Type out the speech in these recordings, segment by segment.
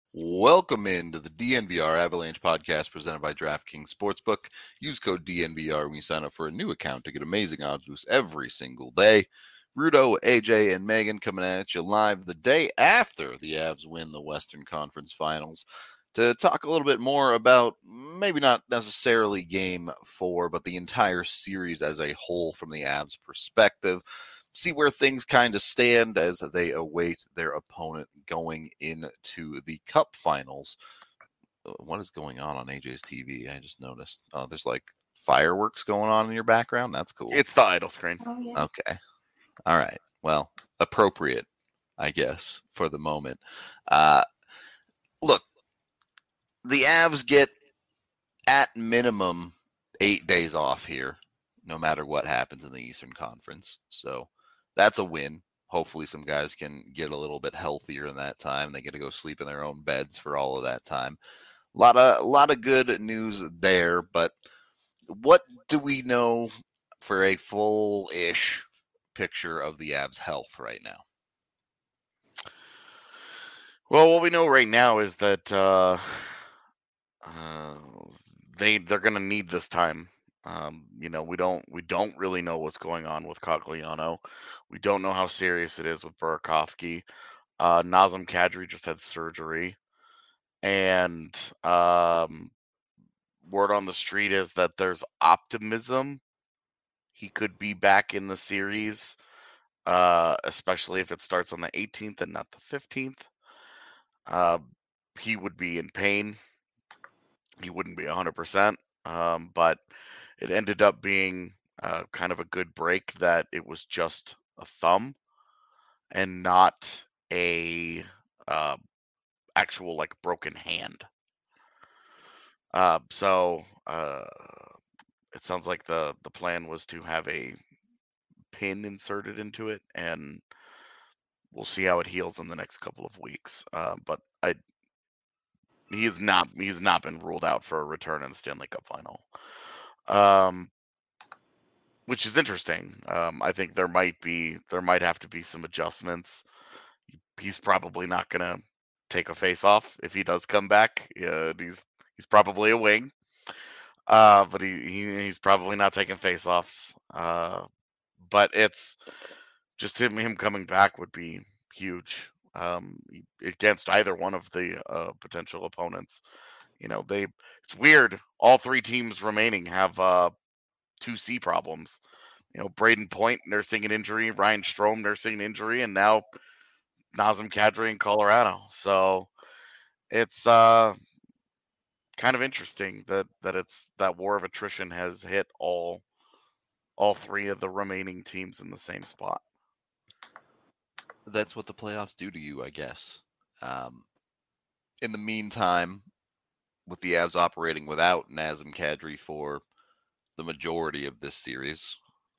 Welcome into the DNVR Avalanche podcast presented by DraftKings Sportsbook. Use code DNVR when you sign up for a new account to get amazing odds boosts every single day. Rudo, AJ, and Megan coming at you live the day after the Avs win the Western Conference Finals to talk a little bit more about maybe not necessarily Game 4, but the entire series as a whole from the Avs perspective. See where things kind of stand as they await their opponent going into the Cup Finals. What is going on AJ's TV? I just noticed. Oh, there's like fireworks going on in your background. That's cool. It's the idle screen. Oh, yeah. Okay. All right. Well, appropriate, I guess, for the moment. Look, the Avs get at minimum 8 days off here, no matter what happens in the Eastern Conference. So that's a win. Hopefully some guys can get a little bit healthier in that time. They get to go sleep in their own beds for all of that time. A lot of good news there, but what do we know for a full-ish picture of the Avs' health right now? Well, what we know right now is that they're going to need this time. We don't really know what's going on with Cogliano. We don't know how serious it is with Burakovsky. Nazem Kadri just had surgery, and word on the street is that there's optimism he could be back in the series, especially if it starts on the 18th and not the 15th. He would be in pain. He wouldn't be 100%, but it ended up being kind of a good break that it was just a thumb and not a actual like broken hand. So it sounds like the plan was to have a pin inserted into it, and we'll see how it heals in the next couple of weeks. But he's not been ruled out for a return in the Stanley Cup final. Which is interesting. I think there might have to be some adjustments. He's probably not gonna take a face off if he does come back. He's probably a wing, but he's probably not taking face offs. But it's just him coming back would be huge against either one of the potential opponents. It's weird. All three teams remaining have 2C problems. Braden Point nursing an injury, Ryan Strome nursing an injury, and now Nazem Kadri in Colorado. So it's kind of interesting that war of attrition has hit all three of the remaining teams in the same spot. That's what the playoffs do to you, I guess. In the meantime, with the Avs operating without Nazem Kadri for the majority of this series,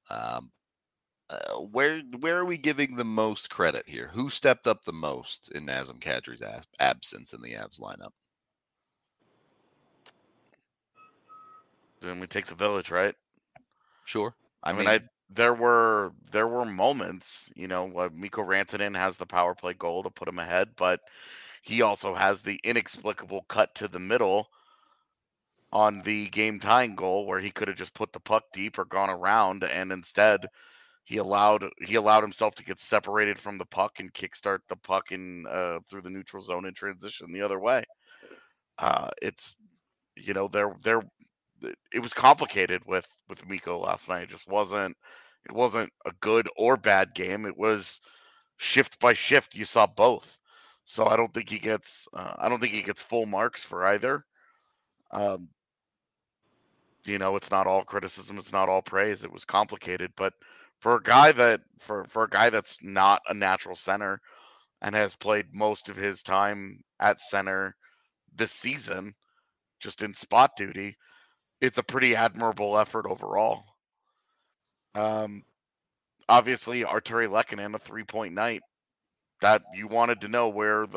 where are we giving the most credit here? Who stepped up the most in Nazem Kadri's absence in the Avs lineup? Then it takes a village, right? Sure. I mean, there were moments. Mikko Rantanen has the power play goal to put him ahead, but he also has the inexplicable cut to the middle on the game tying goal where he could have just put the puck deep or gone around, and instead he allowed himself to get separated from the puck and kickstart the puck in through the neutral zone in transition the other way. It's there it was complicated with Mikko last night. It just wasn't a good or bad game. It was shift by shift. You saw both. So I don't think he gets full marks for either. It's not all criticism, it's not all praise. It was complicated, but for a guy that's not a natural center and has played most of his time at center this season, just in spot duty, it's a pretty admirable effort overall. Obviously, Artturi Lehkonen, a 3-point night. That you wanted to know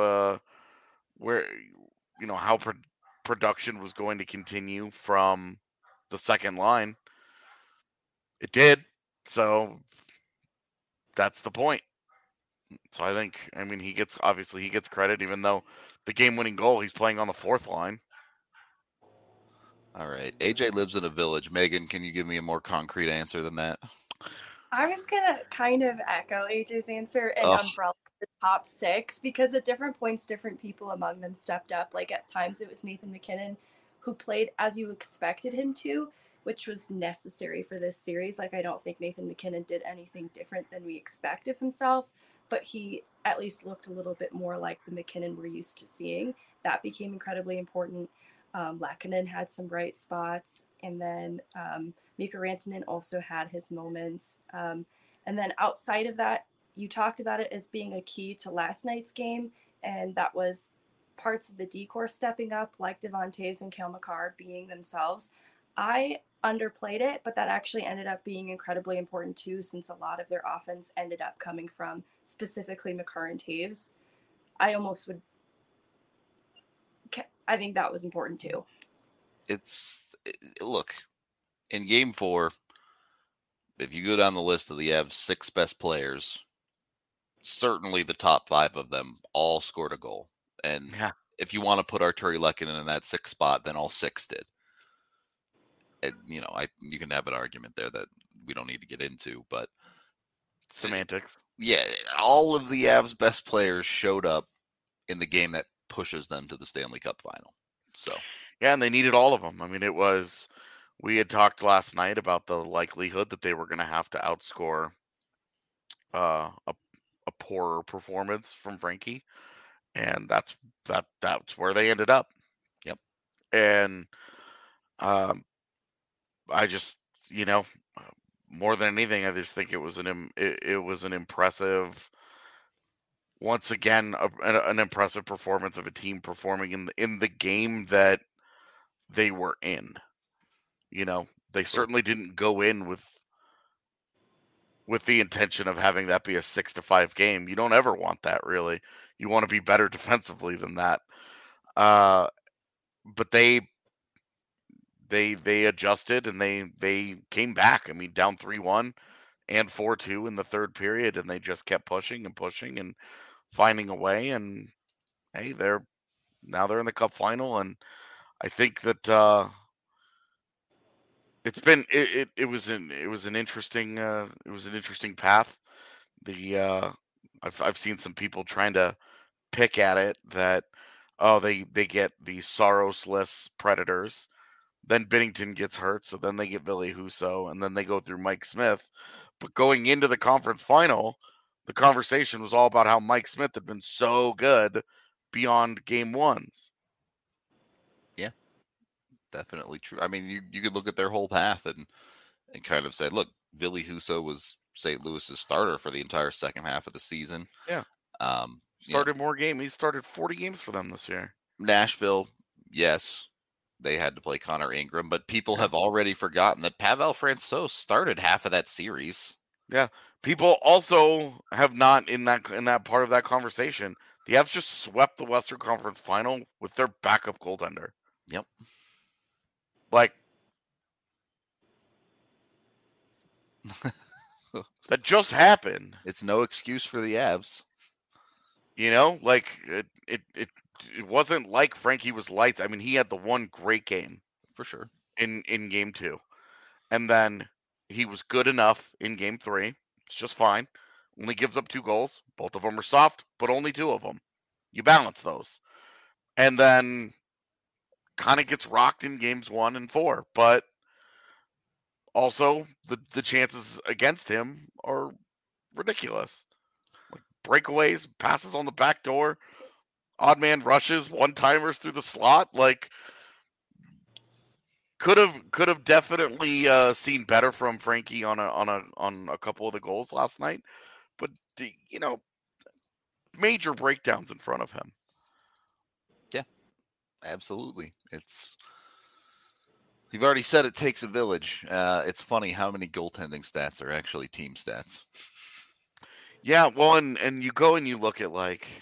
how production was going to continue from the second line. It did. So that's the point. So I mean, he gets credit, even though the game-winning goal he's playing on the fourth line. All right. AJ lives in a village. Megan, can you give me a more concrete answer than that? I was gonna kind of echo AJ's answer and Oh, umbrella the top six because at different points, different people among them stepped up. Like at times, it was Nathan MacKinnon who played as you expected him to, which was necessary for this series. Like I don't think Nathan MacKinnon did anything different than we expect of himself, but he at least looked a little bit more like the MacKinnon we're used to seeing. That became incredibly important. Lehkonen had some bright spots, and then Mikko Rantanen also had his moments. And then outside of that, you talked about it as being a key to last night's game, and that was parts of the decor stepping up, like Devon Toews and Cale Makar being themselves. I underplayed it, but that actually ended up being incredibly important too, since a lot of their offense ended up coming from specifically Makar and Toews. I almost would. I think that was important too. Look, in game 4, if you go down the list of the Avs' 6 best players, certainly the top 5 of them all scored a goal. And Yeah. if you want to put Artturi Lehkonen in that 6th spot, then all 6 did. And, you can have an argument there that we don't need to get into, but Semantics. Yeah, all of the Avs' best players showed up in the game that pushes them to the Stanley Cup final. So Yeah, and they needed all of them. I mean, we had talked last night about the likelihood that they were going to have to outscore a poorer performance from Frankie, and that's where they ended up. Yep. And I just, more than anything, I just think it was an impressive, once again, an impressive performance of a team performing in the game that they were in. They certainly didn't go in with the intention of having that be a 6-5 game. You don't ever want that, really. You want to be better defensively than that. But they adjusted and they came back. I mean, down 3-1 and 4-2 in the third period, and they just kept pushing and pushing and finding a way. And hey, they're in the Cup final, and I think that it's been it was an interesting path. I've seen some people trying to pick at it that they get the Saros-less Predators, then Binnington gets hurt, so then they get Ville Husso, and then they go through Mike Smith. But going into the conference final, the conversation was all about how Mike Smith had been so good beyond game ones. Yeah, definitely true. I mean, you could look at their whole path and kind of say, look, Ville Husso was St. Louis's starter for the entire second half of the season. Yeah. Started more games. He started 40 games for them this year. Nashville, yes, they had to play Connor Ingram, but people have already forgotten that Pavel Francouz started half of that series. Yeah. People also have not in that part of that conversation. The Avs just swept the Western Conference Final with their backup goaltender. Yep. Like that just happened. It's no excuse for the Avs. Like it wasn't like Frankie was lights. I mean, he had the one great game for sure in game 2, and then he was good enough in game 3. It's just fine. Only gives up 2 goals. Both of them are soft, but only 2 of them. You balance those, and then kind of gets rocked in games 1 and 4. But also, the chances against him are ridiculous. Like breakaways, passes on the back door, odd man rushes, one-timers through the slot. Like could have definitely seen better from Frankie on a couple of the goals last night, but major breakdowns in front of him. Yeah, absolutely. You've already said it takes a village. It's funny how many goaltending stats are actually team stats. Yeah, well, and you go and you look at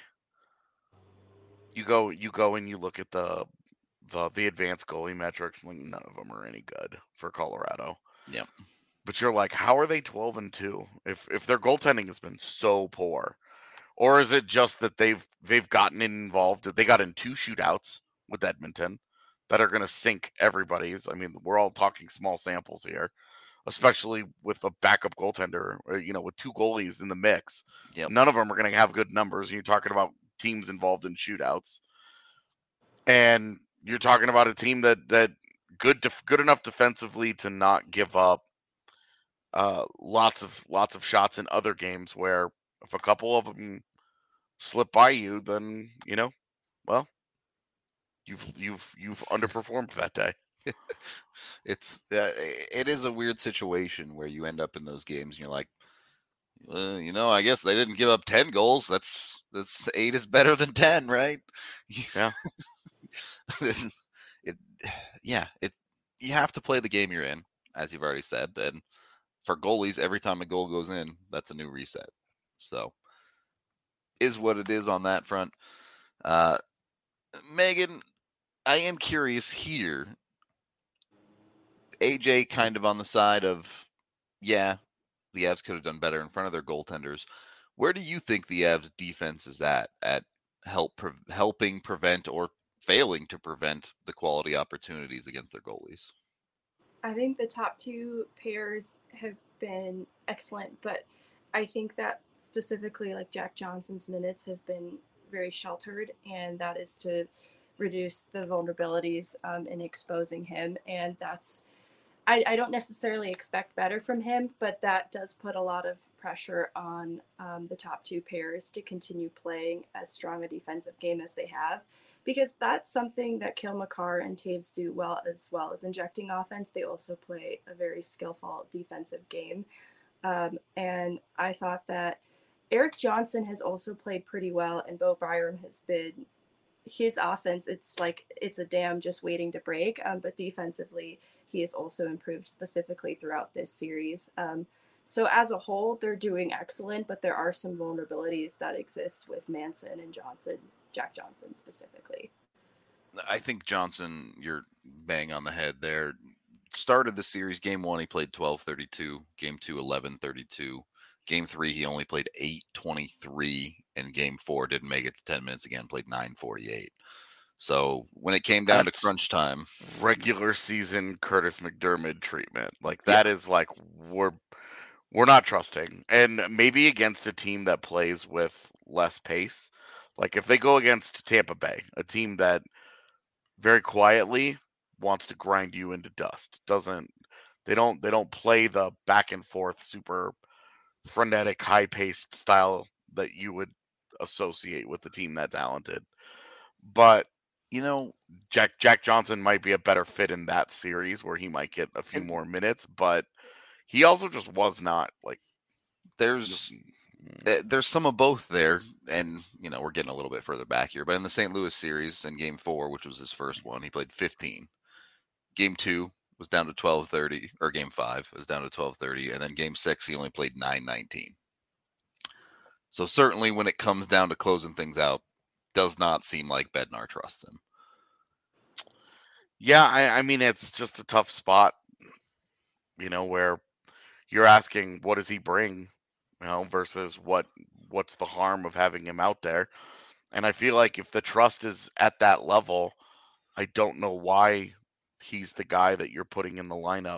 you go and you look at the advanced goalie metrics, and none of them are any good for Colorado. Yep. But you're like, how are they 12-2 if their goaltending has been so poor? Or is it just that they've gotten involved, that they got in 2 shootouts with Edmonton that are going to sink everybody's? I mean, we're all talking small samples here, especially with a backup goaltender, or, with 2 goalies in the mix. Yep. None of them are going to have good numbers. You're talking about teams involved in shootouts. And you're talking about a team that good enough defensively to not give up lots of shots in other games, where if a couple of them slip by you, then well, you've underperformed that day. It is a weird situation where you end up in those games and you're like, I guess they didn't give up 10 goals. That's 8 is better than 10, right? Yeah. You have to play the game you're in, as you've already said. And for goalies, every time a goal goes in, that's a new reset. So is what it is on that front. Megan, I am curious here. AJ kind of on the side of, the Avs could have done better in front of their goaltenders. Where do you think the Avs defense is at helping prevent or failing to prevent the quality opportunities against their goalies? I think the top 2 pairs have been excellent, but I think that specifically like Jack Johnson's minutes have been very sheltered, and that is to reduce the vulnerabilities in exposing him. And that's, I don't necessarily expect better from him, but that does put a lot of pressure on the top 2 pairs to continue playing as strong a defensive game as they have, because that's something that Cale Makar and Taves do well as injecting offense. They also play a very skillful defensive game. And I thought that Erik Johnson has also played pretty well, and Bo Byram has been, his offense, it's like it's a dam just waiting to break. But defensively, he has also improved specifically throughout this series. So as a whole, they're doing excellent, but there are some vulnerabilities that exist with Manson and Johnson, Jack Johnson specifically. I think Johnson, you're bang on the head there. Started the series, game 1, he played 12:32. Game 2, 11:32. Game 3, he only played 8:23. And game 4, didn't make it to 10 minutes again, played 9:48. So when it came down to crunch time, regular season Curtis McDermott treatment, like that is like we're not trusting. And maybe against a team that plays with less pace, like if they go against Tampa Bay, a team that very quietly wants to grind you into dust, they don't play the back and forth super frenetic high paced style that you would associate with a team that talented. But Jack Johnson might be a better fit in that series, where he might get a few more minutes, but he also just was not like. There's some of both there, and we're getting a little bit further back here, but in the St. Louis series in game 4, which was his first one, he played 15. Game 2 was down to 12:30, or game 5 was down to 12:30, and then game 6 he only played 9:19. So certainly when it comes down to closing things out, does not seem like Bednar trusts him. Yeah, I mean, it's just a tough spot, where you're asking, what does he bring, versus what's the harm of having him out there. And I feel like if the trust is at that level, I don't know why he's the guy that you're putting in the lineup.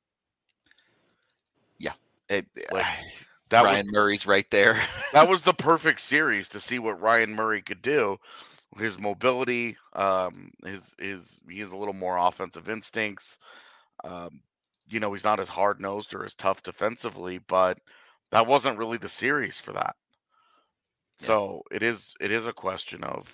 Yeah. Ryan Murray's right there. That was the perfect series to see what Ryan Murray could do. His mobility, he has a little more offensive instincts. He's not as hard-nosed or as tough defensively, but that wasn't really the series for that. Yeah. So it is a question of,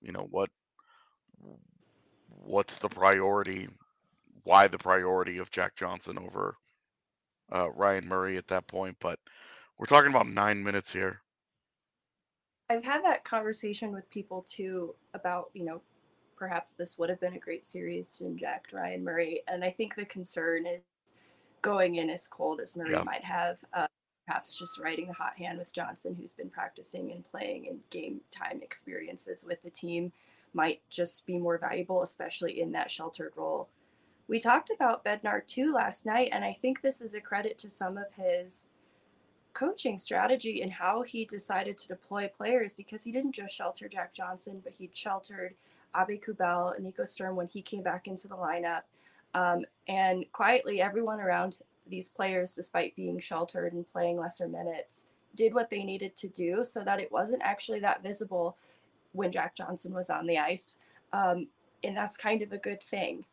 what's the priority? Why the priority of Jack Johnson over Ryan Murray at that point? But we're talking about 9 minutes here. I've had that conversation with people too about, perhaps this would have been a great series to inject Ryan Murray. And I think the concern is going in as cold as Murray might have, perhaps just riding the hot hand with Johnson, who's been practicing and playing, and game time experiences with the team might just be more valuable, especially in that sheltered role. We talked about Bednar too last night, and I think this is a credit to some of his coaching strategy and how he decided to deploy players, because he didn't just shelter Jack Johnson, but he sheltered Abe Kubel and Nico Sturm when he came back into the lineup. And quietly, everyone around these players, despite being sheltered and playing lesser minutes, did what they needed to do so that it wasn't actually that visible when Jack Johnson was on the ice. And that's kind of a good thing.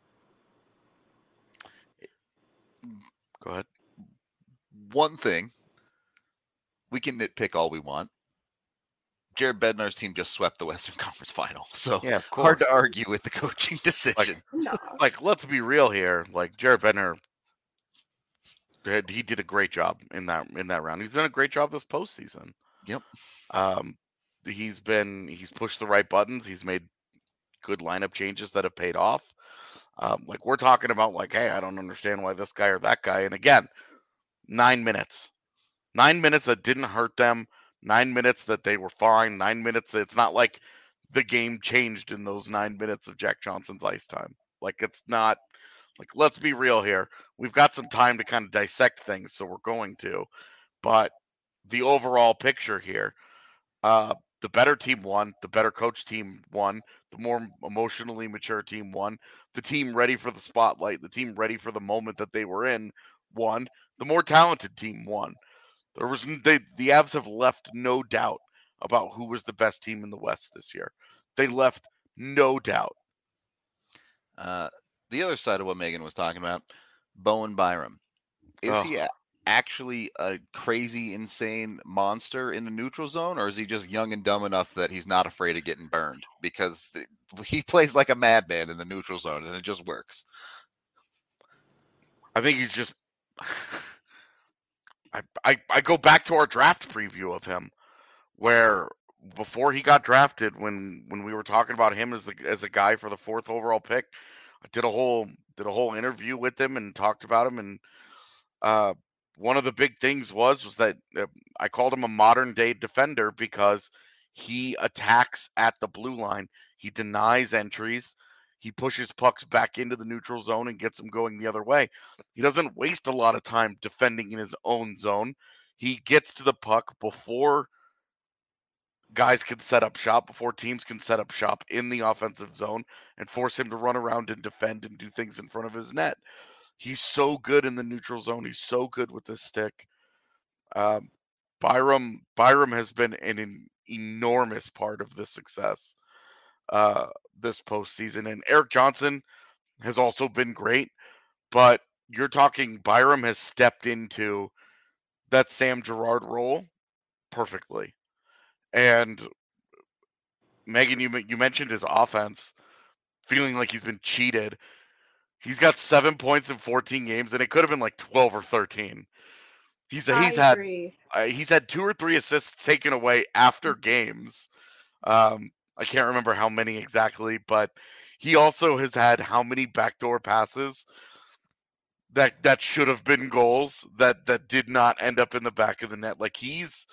Go ahead. One thing, we can nitpick all we want. Jared Bednar's team just swept the Western Conference Final, so Yeah, of course. hard to argue with the coaching decision. Like, let's be real here. Like, Jared Bednar, he did a great job in that round. He's done a great job this postseason. Yep. He's pushed the right buttons. He's made good lineup changes that have paid off. Like, we're talking about, like, hey, I don't understand why this guy or that guy. And again, 9 minutes. 9 minutes that didn't hurt them. 9 minutes that they were fine. 9 minutes that it's not like the game changed in those 9 minutes of Jack Johnson's ice time. Like, it's not, like, let's be real here. We've got some time to kind of dissect things, so we're going to. But the overall picture here, the better team won, the better coach team won, the more emotionally mature team won, the team ready for the spotlight, the team ready for the moment that they were in won, the more talented team won. The Avs have left no doubt about who was the best team in the West this year. They left no doubt. The other side of what Megan was talking about, Bowen Byram. Is he actually a crazy, insane monster in the neutral zone, or is he just young and dumb enough that he's not afraid of getting burned? Because he plays like a madman in the neutral zone, and it just works. I think he's just... I go back to our draft preview of him, where before he got drafted, when we were talking about him as a guy for the 4th overall pick, I did a whole interview with him and talked about him, and one of the big things was that I called him a modern day defender because he attacks at the blue line. He denies entries. He pushes pucks back into the neutral zone and gets them going the other way. He doesn't waste a lot of time defending in his own zone. He gets to the puck before guys can set up shop, before teams can set up shop in the offensive zone and force him to run around and defend and do things in front of his net. He's so good in the neutral zone. He's so good with the stick. Byram has been an enormous part of this success this postseason. And Erik Johnson has also been great. But you're talking Byram has stepped into that Sam Girard role perfectly. And Megan, you mentioned his offense, feeling like he's been cheated. He's got 7 points in 14 games, and it could have been like 12 or 13. He's had 2 or 3 assists taken away after games. I can't remember how many exactly, but he also has had how many backdoor passes that should have been goals that did not end up in the back of the net. Like,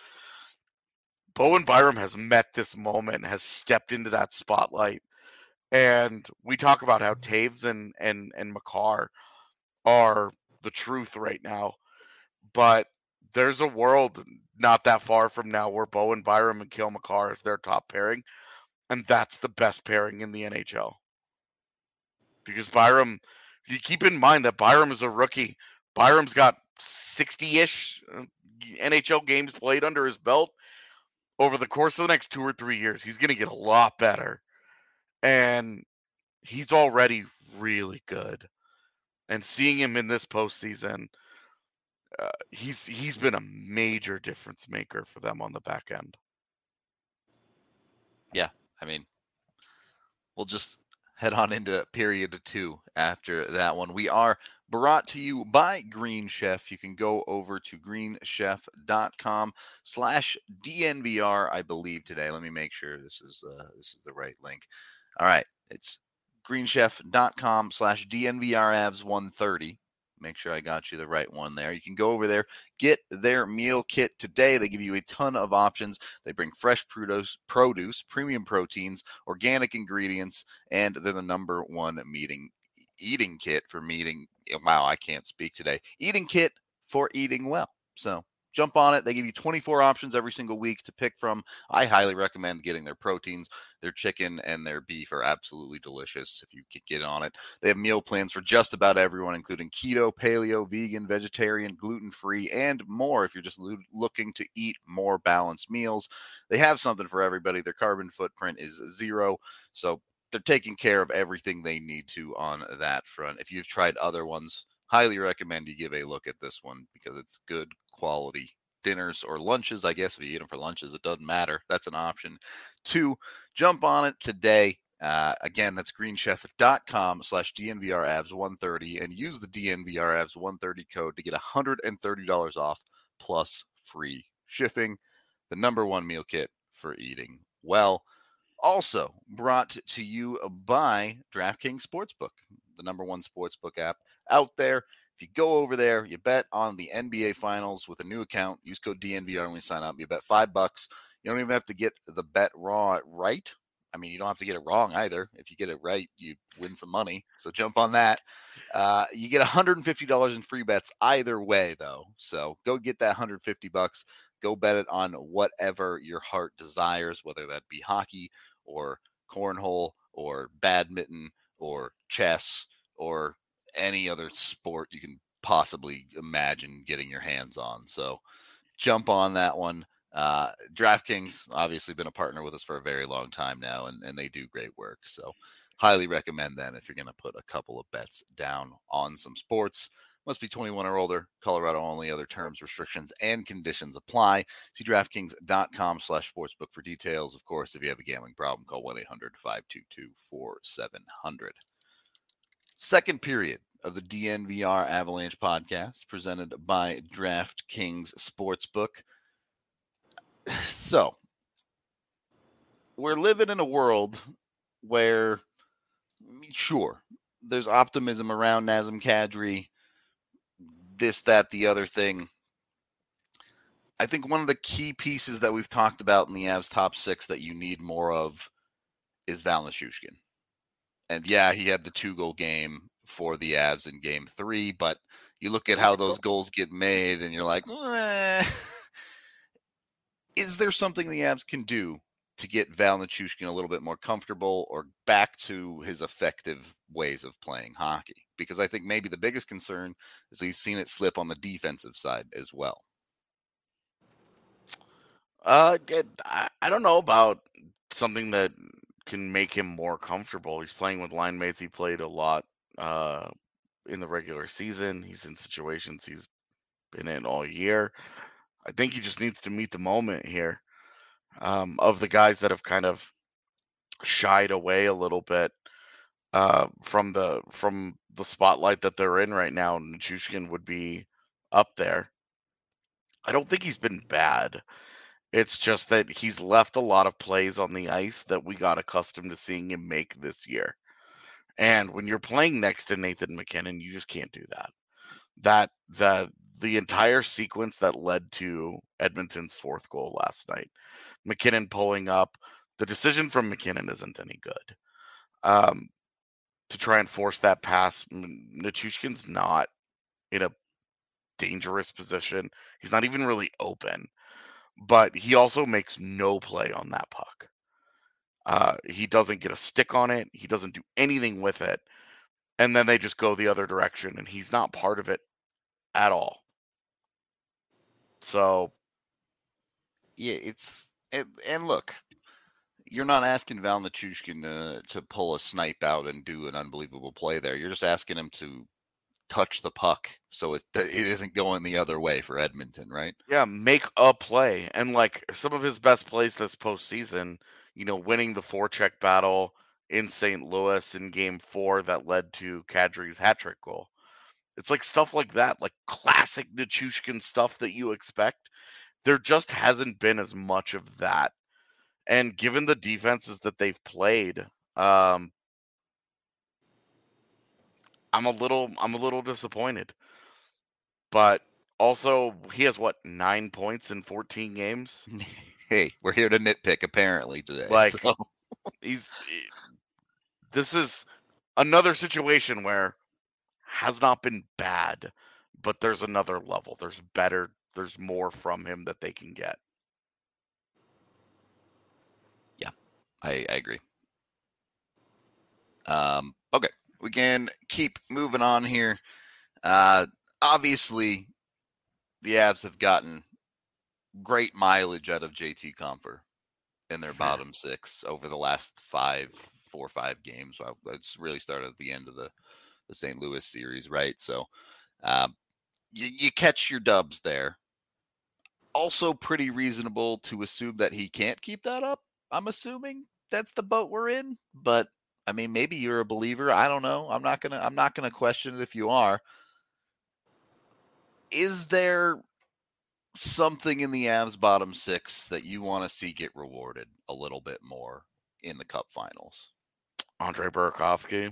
Bowen Byram has met this moment, has stepped into that spotlight. And we talk about how Taves and Makar are the truth right now. But there's a world not that far from now where Bowen Byram and Cale Makar is their top pairing. And that's the best pairing in the NHL. Because Byram, you keep in mind that Byram is a rookie. Byram's got 60-ish NHL games played under his belt. Over the course of the next 2 or 3 years, he's going to get a lot better. And he's already really good. And seeing him in this postseason, he's been a major difference maker for them on the back end. Yeah, I mean, we'll just head on into period 2 after that one. We are brought to you by Green Chef. You can go over to greenchef.com/DNVR, I believe, today. Let me make sure this is the right link. All right, it's greenchef.com/DNVRAvs130. Make sure I got you the right one there. You can go over there, get their meal kit today. They give you a ton of options. They bring fresh produce, premium proteins, organic ingredients, and they're the #1 eating kit for meeting. Wow, I can't speak today. Eating kit for eating well. So jump on it. They give you 24 options every single week to pick from. I highly recommend getting their proteins. Their chicken and their beef are absolutely delicious if you could get on it. They have meal plans for just about everyone, including keto, paleo, vegan, vegetarian, gluten-free, and more if you're just looking to eat more balanced meals. They have something for everybody. Their carbon footprint is 0, so they're taking care of everything they need to on that front. If you've tried other ones, highly recommend you give a look at this one because it's good quality dinners or lunches. I guess if you eat them for lunches, it doesn't matter. That's an option. 2, jump on it today. Again, that's greenchef.com/DNVRAvs130 and use the DNVRAvs130 code to get $130 off plus free shipping. The #1 meal kit for eating well. Also brought to you by DraftKings Sportsbook, the #1 sportsbook app out there. If you go over there, you bet on the NBA Finals with a new account. Use code DNVR when you sign up. You bet $5. You don't even have to get the bet right. I mean, you don't have to get it wrong either. If you get it right, you win some money. So jump on that. You get $150 in free bets either way, though. So go get that $150. Go bet it on whatever your heart desires, whether that be hockey or cornhole or badminton or chess or any other sport you can possibly imagine getting your hands on. So jump on that one. DraftKings obviously been a partner with us for a very long time now, and they do great work. So highly recommend them if you're going to put a couple of bets down on some sports. Must be 21 or older. Colorado only. Other terms, restrictions, and conditions apply. See DraftKings.com/sportsbook for details. Of course, if you have a gambling problem, call 1-800-522-4700. Second period of the DNVR Avalanche podcast presented by DraftKings Sportsbook. So, we're living in a world where, sure, there's optimism around Nazem Kadri, this, that, the other thing. I think one of the key pieces that we've talked about in the Avs top 6 that you need more of is Val Nichushkin. And yeah, he had the 2-goal game for the Avs in game 3, but you look at how those goals get made and you're like, is there something the Avs can do to get Val Nichushkin a little bit more comfortable or back to his effective ways of playing hockey? Because I think maybe the biggest concern is we've seen it slip on the defensive side as well. I don't know about something that can make him more comfortable. He's playing with line mates he played a lot in the regular season. He's in situations he's been in all year. I think he just needs to meet the moment here. Of the guys that have kind of shied away a little bit from the spotlight that they're in right now, Nichushkin would be up there. I don't think he's been bad. It's just that he's left a lot of plays on the ice that we got accustomed to seeing him make this year. And when you're playing next to Nathan MacKinnon, you just can't do that. The entire sequence that led to Edmonton's 4th goal last night, MacKinnon pulling up, the decision from MacKinnon isn't any good. To try and force that pass, Nichushkin's not in a dangerous position. He's not even really open, but he also makes no play on that puck. He doesn't get a stick on it. He doesn't do anything with it. And then they just go the other direction, and he's not part of it at all. So, yeah, and look, you're not asking Val Nichushkin to pull a snipe out and do an unbelievable play there. You're just asking him to touch the puck so it isn't going the other way for Edmonton, right? Yeah, make a play. And like some of his best plays this postseason, winning the forecheck battle in St. Louis in game 4 that led to Kadri's hat-trick goal. It's like stuff like that, like classic Nichushkin stuff that you expect. There just hasn't been as much of that. And given the defenses that they've played, I'm a little disappointed. But also, he has 9 points in 14 games? Hey, we're here to nitpick apparently today. Like, this is another situation where has not been bad, but there's another level. There's better there's more from him that they can get. Yeah, I agree. Okay, we can keep moving on here. Obviously, the Avs have gotten great mileage out of JT Compher in their bottom six over the last 4 or 5 games. It's really started at the end of the St. Louis series, right? So you catch your dubs there. Also pretty reasonable to assume that he can't keep that up. I'm assuming that's the boat we're in, but I mean, maybe you're a believer. I don't know. I'm not gonna question it if you are. Is there something in the Avs bottom six that you want to see get rewarded a little bit more in the Cup Finals? Andre Burakovsky.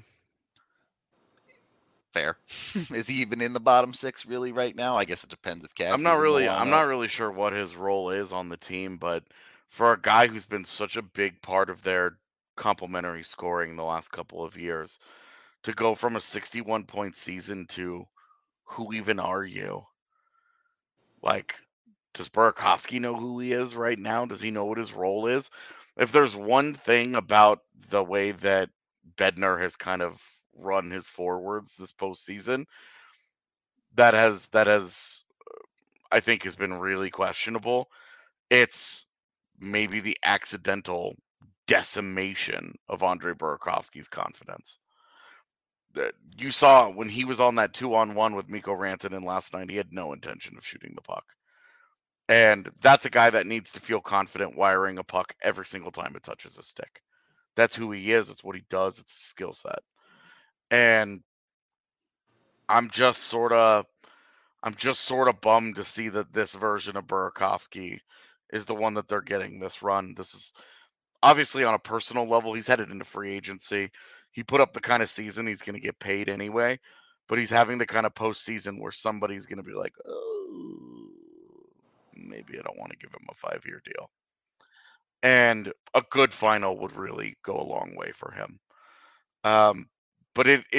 Fair. Is he even in the bottom six really right now? I guess it depends if Kadri's I'm not in the really lineup. sure what his role is on the team, but for a guy who's been such a big part of their complementary scoring the last couple of years, to go from a 61-point season to who even are you? Like, does Burakovsky know who he is right now? Does he know what his role is? If there's one thing about the way that Bednar has kind of run his forwards this postseason, that has I think has been really questionable. It's maybe the accidental decimation of Andre Burakovsky's confidence. That you saw when he was on that 2-on-1 with Mikko Rantanen last night, he had no intention of shooting the puck. And that's a guy that needs to feel confident wiring a puck every single time it touches a stick. That's who he is. It's what he does. It's a skill set. And I'm just sort of bummed to see that this version of Burakovsky is the one that they're getting this run. This is obviously on a personal level. He's headed into free agency. He put up the kind of season he's going to get paid anyway, but he's having the kind of postseason where somebody's going to be like, oh, maybe I don't want to give him a 5-year deal. And a good final would really go a long way for him. But it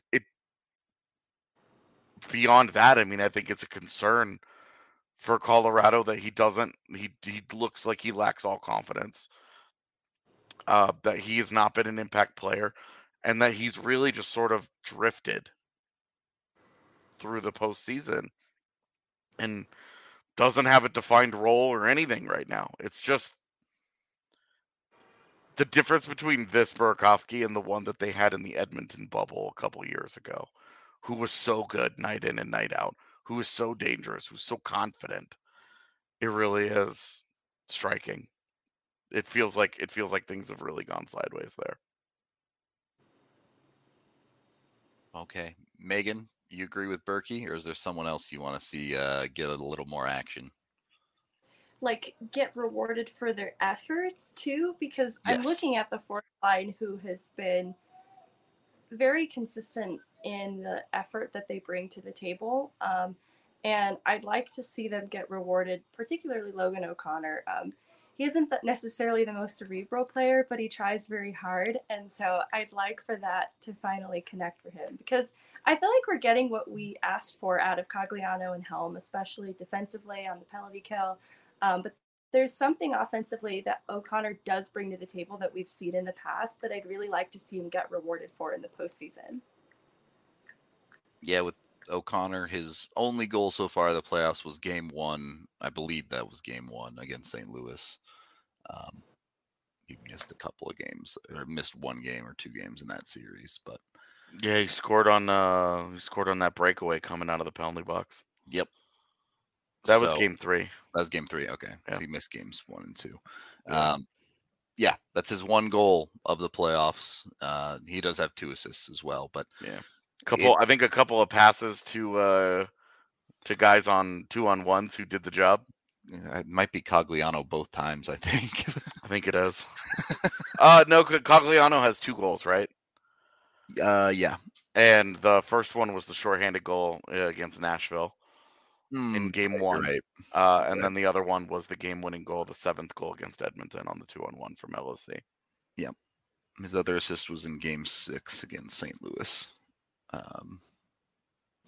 beyond that, I mean, I think it's a concern for Colorado that he looks like he lacks all confidence. That he has not been an impact player, and that he's really just sort of drifted through the postseason and doesn't have a defined role or anything right now. It's just the difference between this Burakovsky and the one that they had in the Edmonton bubble a couple years ago, who was so good night in and night out, who was so dangerous, who's so confident. It really is striking. It feels like things have really gone sideways there. Okay. Megan, you agree with Berkey, or is there someone else you want to see get a little more action? Like, get rewarded for their efforts too, because Yes. I'm looking at the fourth line, who has been very consistent in the effort that they bring to the table. And I'd like to see them get rewarded, particularly Logan O'Connor. He isn't necessarily the most cerebral player, but he tries very hard. And so I'd like for that to finally connect for him, because I feel like we're getting what we asked for out of Cogliano and Helm, especially defensively on the penalty kill. But there's something offensively that O'Connor does bring to the table that we've seen in the past that I'd really like to see him get rewarded for in the postseason. Yeah, with O'Connor, his only goal so far of the playoffs was game 1. I believe that was game 1 against St. Louis. He missed a couple of games, or missed 1 game or 2 games in that series, but yeah, he scored on that breakaway coming out of the penalty box. Yep. That was game 3. That was game 3. Okay. Yeah. He missed games 1 and 2. Yeah. That's his one goal of the playoffs. He does have 2 assists as well, but yeah, I think a couple of passes to guys on 2-on-1s who did the job. It might be Cogliano both times, I think. I think it is. No, Cogliano has 2 goals, right? Yeah. And the first one was the shorthanded goal against Nashville in game 1. Right. And then the other one was the game-winning goal, the 7th goal against Edmonton on the 2-on-1 from LOC. Yeah. His other assist was in game 6 against St. Louis.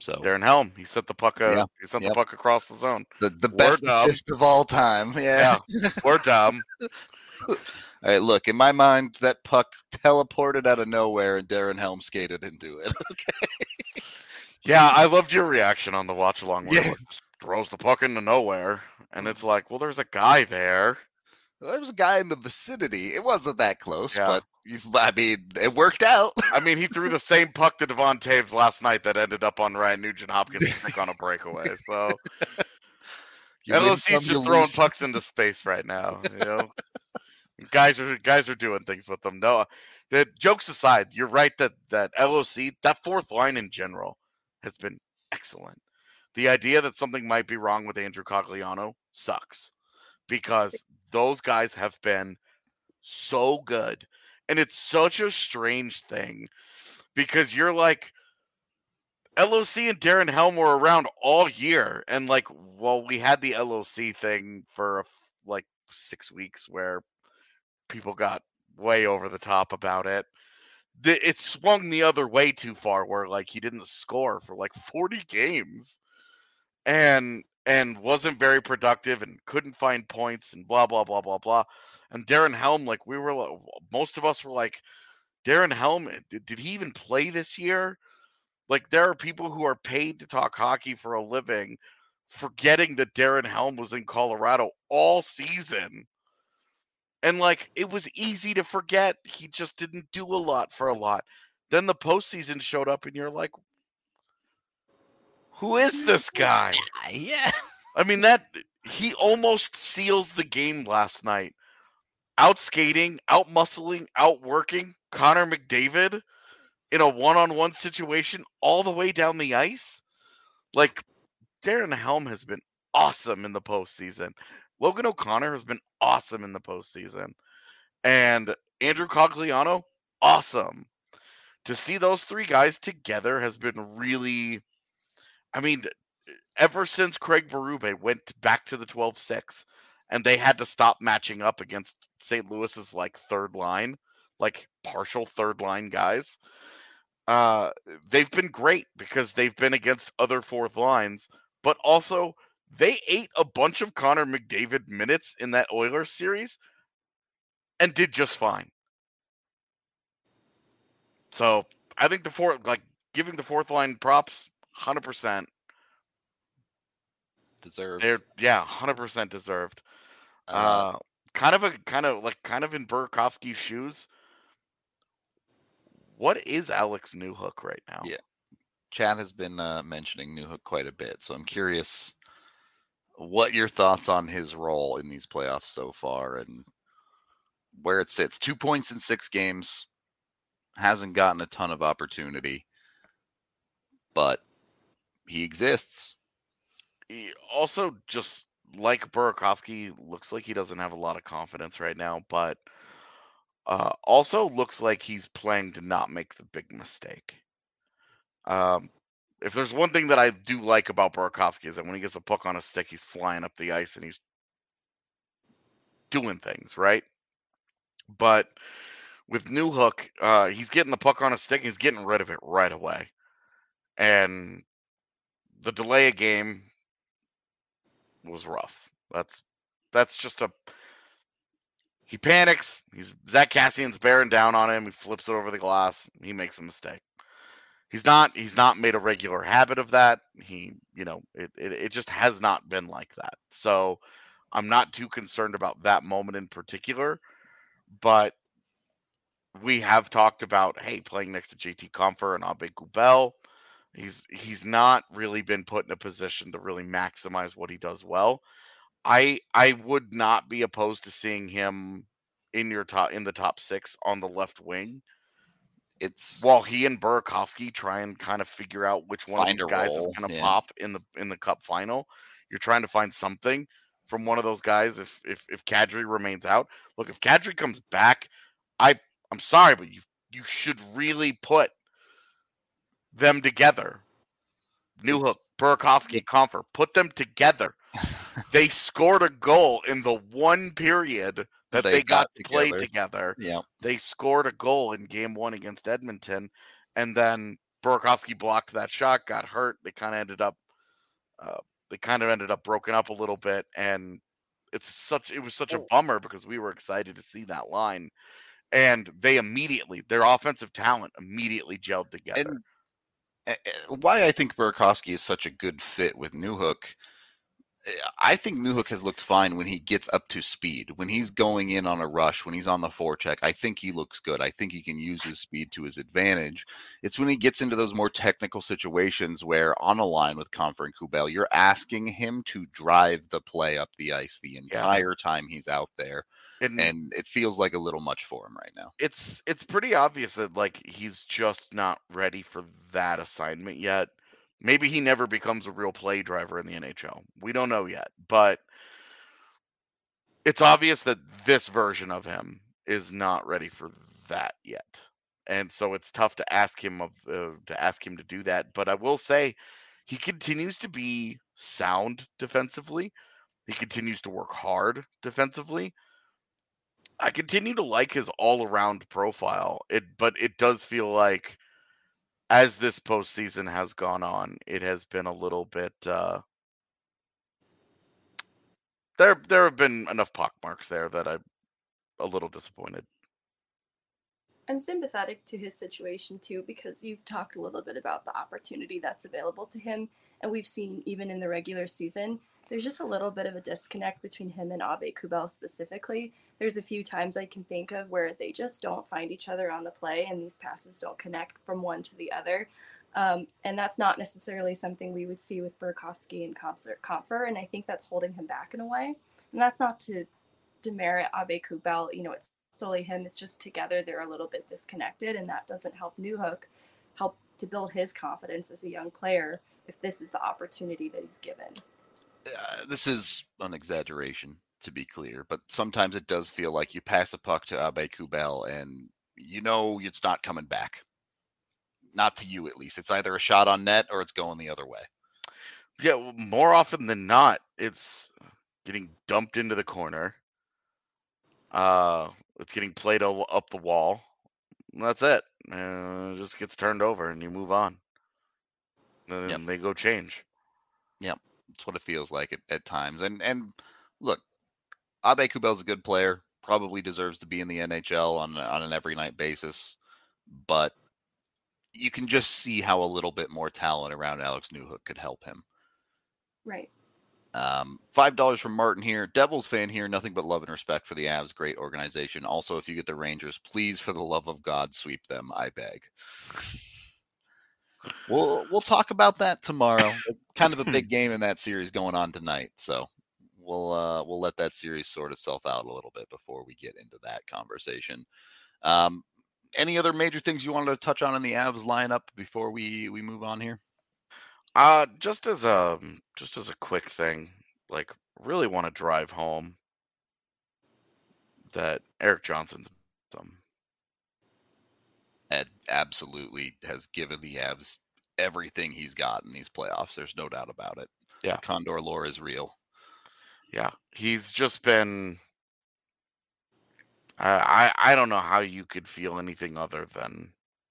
So Darren Helm, he sent the puck. Yeah, He sent yep. the puck across the zone. the We're best dumb. assist of all time. Yeah. We're dumb. All right, look, in my mind, that puck teleported out of nowhere and Darren Helm skated into it. Okay. Yeah, I loved your reaction on the watch along where Yeah. it throws the puck into nowhere, and it's like, well, there's a guy there. There was a guy in the vicinity. It wasn't that close, Yeah. but I mean, it worked out. I mean, he threw the same puck to Devon Taves last night that ended up on Ryan Nugent-Hopkins' stick on a breakaway. So You win LOC's some, you just throwing lose. pucks into space right now. You know, guys are doing things with them. No, the jokes aside, you're right that LOC, that fourth line in general, has been excellent. The idea that something might be wrong with Andrew Cogliano sucks, because those guys have been so good. And it's such a strange thing, because you're like, LOC and Darren Helm were around all year. And like, well, we had the LOC thing for like 6 weeks where people got way over the top about it. It swung the other way too far, where like he didn't score for like 40 games. And wasn't very productive and couldn't find points and blah blah blah blah blah. And Darren Helm, like most of us were like, Darren Helm, did he even play this year? Like, there are people who are paid to talk hockey for a living, forgetting that Darren Helm was in Colorado all season. And like, it was easy to forget. He just didn't do a lot for a lot. Then the postseason showed up, and you're like, who is this guy? Yeah. I mean, he almost seals the game last night. Out skating, out muscling, outworking Connor McDavid in a one-on-one situation all the way down the ice. Like, Darren Helm has been awesome in the postseason. Logan O'Connor has been awesome in the postseason. And Andrew Cogliano, awesome. To see those three guys together has been really, I mean, ever since Craig Berube went back to the 12-6 and they had to stop matching up against St. Louis's like third line, like partial third line guys, they've been great because they've been against other fourth lines, but also they ate a bunch of Connor McDavid minutes in that Oilers series and did just fine. So I think giving the fourth line props, 100%. Deserved. 100% deserved. Kind of in Burakovsky's shoes. What is Alex Newhook right now? Yeah. Chad has been mentioning Newhook quite a bit, so I'm curious what your thoughts on his role in these playoffs so far and where it sits. 2 points in 6 games, hasn't gotten a ton of opportunity, but he exists. He also, just like Burakovsky, looks like he doesn't have a lot of confidence right now, but also looks like he's playing to not make the big mistake. If there's one thing that I do like about Burakovsky is that when he gets a puck on a stick, he's flying up the ice and he's doing things, right? But with Newhook, he's getting the puck on a stick, he's getting rid of it right away. And the delay of game was rough. That's just he panics. Zach Cassian's bearing down on him. He flips it over the glass. He makes a mistake. He's not made a regular habit of that. It just has not been like that. So I'm not too concerned about that moment in particular, but we have talked about, hey, playing next to JT Compher and Abe Kubel, he's not really been put in a position to really maximize what he does well. I would not be opposed to seeing him in the top 6 on the left wing. While he and Burakovsky try and kind of figure out which one of these guys is going to pop in the Cup final. You're trying to find something from one of those guys. If Kadri remains out, look, if Kadri comes back, I'm sorry, but you should really put them together. Newhook, Burakovsky, Compher, put them together. They scored a goal in the one period that they got to play together. Yeah. They scored a goal in game 1 against Edmonton, and then Burakovsky blocked that shot, got hurt. They kind of ended up broken up a little bit, and it was such a bummer because we were excited to see that line, and their offensive talent immediately gelled together. And why I think Burakovsky is such a good fit with Newhook, I think Newhook has looked fine when he gets up to speed. When he's going in on a rush, when he's on the forecheck, I think he looks good. I think he can use his speed to his advantage. It's when he gets into those more technical situations where on a line with Compher and Kubel, you're asking him to drive the play up the ice the entire time he's out there. And it feels like a little much for him right now. It's pretty obvious that like he's just not ready for that assignment yet. Maybe he never becomes a real play driver in the NHL. We don't know yet, but it's obvious that this version of him is not ready for that yet. And so it's tough to ask him to do that, but I will say he continues to be sound defensively. He continues to work hard defensively. I continue to like his all-around profile. But it does feel like as this postseason has gone on, it has been a little bit there have been enough pockmarks there that I'm a little disappointed. I'm sympathetic to his situation too, because you've talked a little bit about the opportunity that's available to him, and we've seen even in the regular season, there's just a little bit of a disconnect between him and Abe-Kubel specifically. There's a few times I can think of where they just don't find each other on the play, and these passes don't connect from one to the other. And that's not necessarily something we would see with Burakovsky and Compher, and I think that's holding him back in a way. And that's not to demerit Abe-Kubel. It's solely him. It's just together they're a little bit disconnected, and that doesn't help Newhook help to build his confidence as a young player if this is the opportunity that he's given. This is an exaggeration, to be clear, but sometimes it does feel like you pass a puck to Abe-Kubel and it's not coming back. Not to you, at least. It's either a shot on net or it's going the other way. Yeah, more often than not, it's getting dumped into the corner. It's getting played up the wall. That's it. It just gets turned over and you move on. And then they go change. Yep. That's what it feels like at times. And look, Abe-Kubel's a good player. Probably deserves to be in the NHL on an every night basis. But you can just see how a little bit more talent around Alex Newhook could help him. Right. $5 from Martin here. Devils fan here. Nothing but love and respect for the Avs. Great organization. Also, if you get the Rangers, please, for the love of God, sweep them. I beg. We'll talk about that tomorrow. Kind of a big game in that series going on tonight. So we'll let that series sort itself out a little bit before we get into that conversation. Any other major things you wanted to touch on in the Avs lineup before we move on here? Just as a quick thing, like really want to drive home that Erik Johnson's Ed absolutely has given the Avs everything he's got in these playoffs. There's no doubt about it. Yeah, the Condor lore is real. Yeah, he's just been. I don't know how you could feel anything other than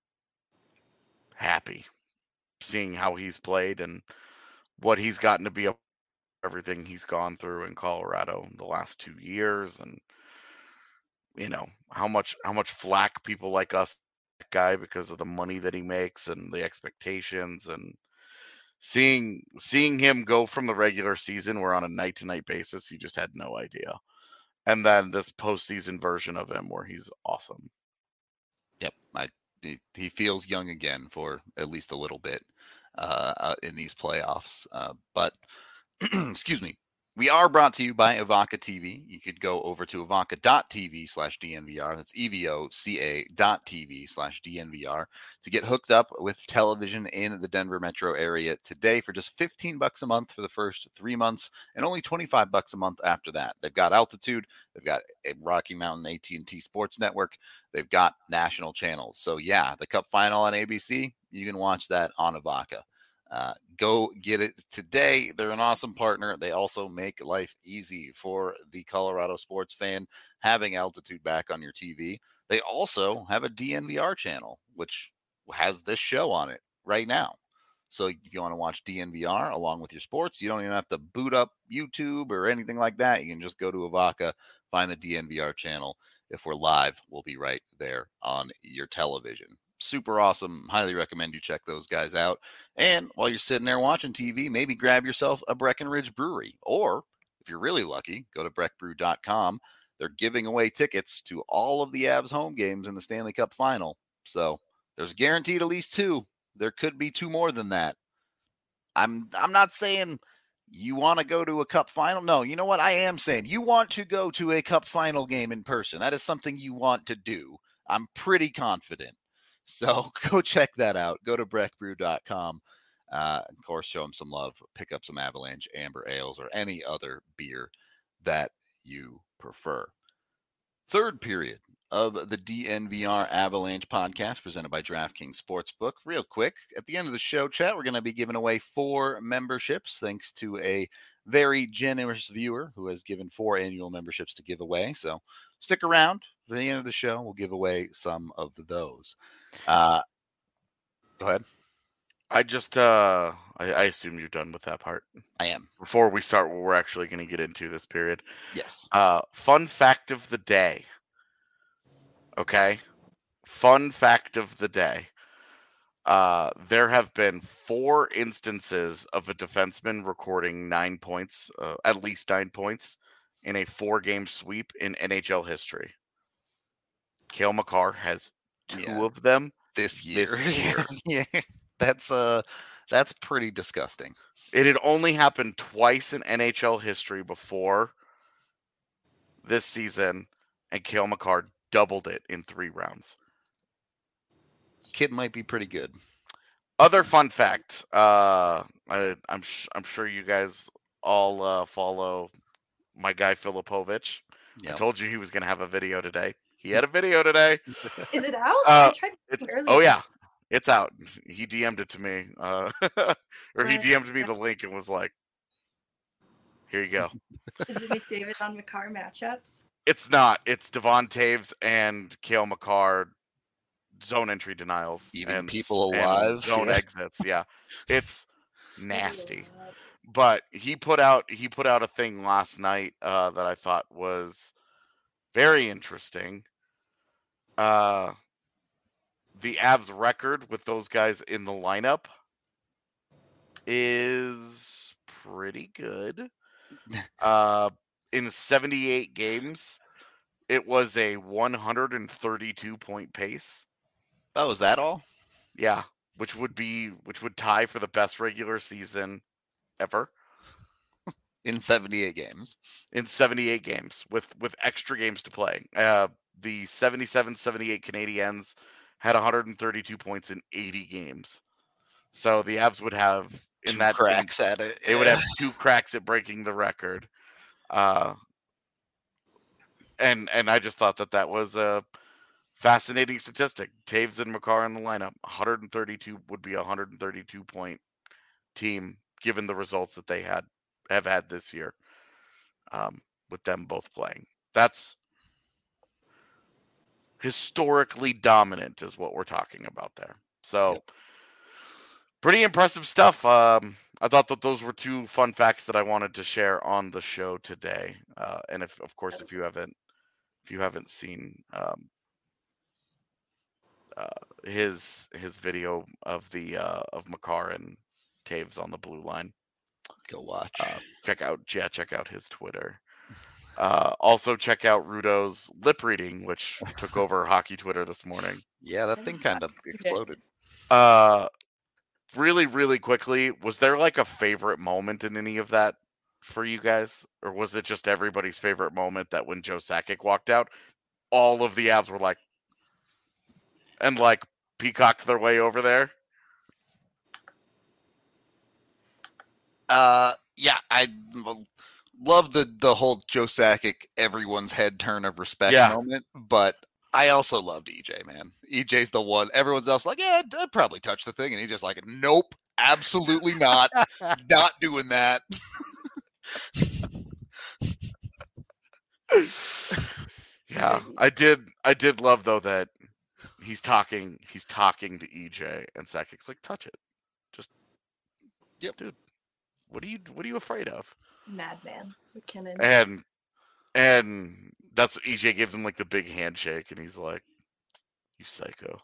happy seeing how he's played and what he's gotten to be everything he's gone through in Colorado in the last 2 years, and how much flack people like us guy because of the money that he makes and the expectations, and seeing him go from the regular season where on a night to night basis you just had no idea, and then this postseason version of him where he's awesome. Yep, he feels young again for at least a little bit in these playoffs. But excuse me. We are brought to you by Evoca TV. You could go over to evoca.tv/DNVR. That's evoca.tv/DNVR to get hooked up with television in the Denver metro area today for just $15 a month for the first 3 months and only $25 a month after that. They've got Altitude. They've got a Rocky Mountain AT&T Sports Network. They've got national channels. So, yeah, the Cup Final on ABC, you can watch that on Evoca. Go get it today. They're an awesome partner. They also make life easy for the Colorado sports fan having Altitude back on your TV. They also have a DNVR channel, which has this show on it. right now. So if you want to watch DNVR along with your sports, you don't even have to boot up YouTube or anything like that. You can just go to Avaca, find the DNVR channel. If we're live, we'll be right there on your television. Super awesome. Highly recommend you check those guys out. And while you're sitting there watching TV, maybe grab yourself a Breckenridge Brewery. Or if you're really lucky, go to breckbrew.com. They're giving away tickets to all of the Avs home games in the Stanley Cup final. So there's guaranteed at least 2. There could be 2 more than that. I'm not saying you want to go to a cup final. No, you know what? I am saying you want to go to a cup final game in person. That is something you want to do. I'm pretty confident. So go check that out. Go to breckbrew.com. Of course, show them some love. Pick up some Avalanche Amber Ales or any other beer that you prefer. Third period of the DNVR Avalanche podcast presented by DraftKings Sportsbook. Real quick, at the end of the show, chat, we're going to be giving away 4 memberships thanks to a very generous viewer who has given 4 annual memberships to give away. So stick around. At the end of the show, we'll give away some of those. Go ahead. I just, I assume you're done with that part. I am. Before we start what we're actually going to get into this period. Yes. Fun fact of the day. Okay. Fun fact of the day. There have been 4 instances of a defenseman recording 9 points, at least 9 points, in a 4-game sweep in NHL history. Cale Makar has 2 of them this year. Yeah, that's pretty disgusting. It had only happened twice in NHL history before this season, and Cale Makar doubled it in 3 rounds. Kid might be pretty good. Other fun fact, I'm sure you guys all follow my guy Filipovic. Yep. I told you he was going to have a video today. He had a video today. Is it out? I tried earlier. Oh yeah, it's out. He DM'd it to me, or he DM'd me the link and was like, "Here you go." Is it McDavid on Makar matchups? It's not. It's Devon Taves and Cale Makar zone entry denials. Even and people alive. And zone exits. Yeah, it's nasty. But he put out a thing last night that I thought was very interesting. The Avs record with those guys in the lineup is pretty good. In 78 games, it was a 132-point pace. Oh, is that all? Yeah, which would tie for the best regular season ever. In 78 games. In 78 games with extra games to play. The 77-78 Canadiens had 132 points in 80 games. So the Avs would have in 2 that cracks at it. They would have 2 cracks at breaking the record. And I just thought that was a fascinating statistic. Taves and Makar in the lineup. 132 would be a 132-point team given the results that they have had this year, with them both playing. That's historically dominant is what we're talking about there. So pretty impressive stuff. I thought that those were 2 fun facts that I wanted to share on the show today. And if you haven't seen his video of the of Makar and Taves on the blue line, go watch. Check out his Twitter. Also check out Rudo's lip reading, which took over hockey Twitter this morning. Yeah, that thing kind of exploded. Really, really quickly, was there like a favorite moment in any of that for you guys? Or was it just everybody's favorite moment that when Joe Sakic walked out, all of the Avs were like, and like peacocked their way over there? Yeah, I love the whole Joe Sakic, everyone's head turn of respect moment, but I also loved EJ, man. EJ's the one. Everyone's else like, yeah, I'd probably touch the thing. And he just like, nope, absolutely not. Not doing that. Yeah, I did love, though, that he's talking to EJ, and Sakic's like, touch it. Just, Yep. dude, what are you afraid of? Madman McKinnon. And that's what EJ gives him like the big handshake, and he's like, you psycho.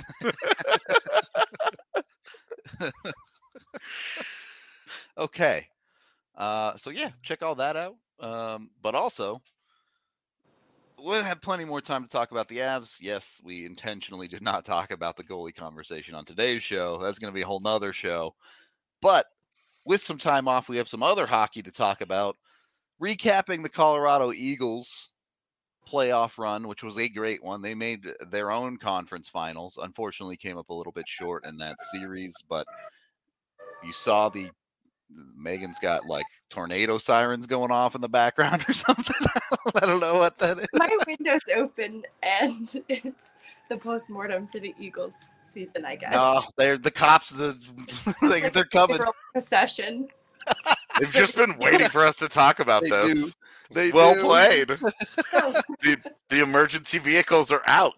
Okay. So yeah, check all that out. But also, we'll have plenty more time to talk about the Avs. Yes, we intentionally did not talk about the goalie conversation on today's show. That's going to be a whole nother show. But with some time off, we have some other hockey to talk about. Recapping the Colorado Eagles playoff run, which was a great one. They made their own conference finals. Unfortunately, came up a little bit short in that series, but you saw Megan's got like tornado sirens going off in the background or something. I don't know what that is. My window's open and it's the postmortem for the Eagles season, I guess. No, they're the cops. They're coming. Procession. They've just been waiting for us to talk about They this. do. They well do. played. The emergency vehicles are out.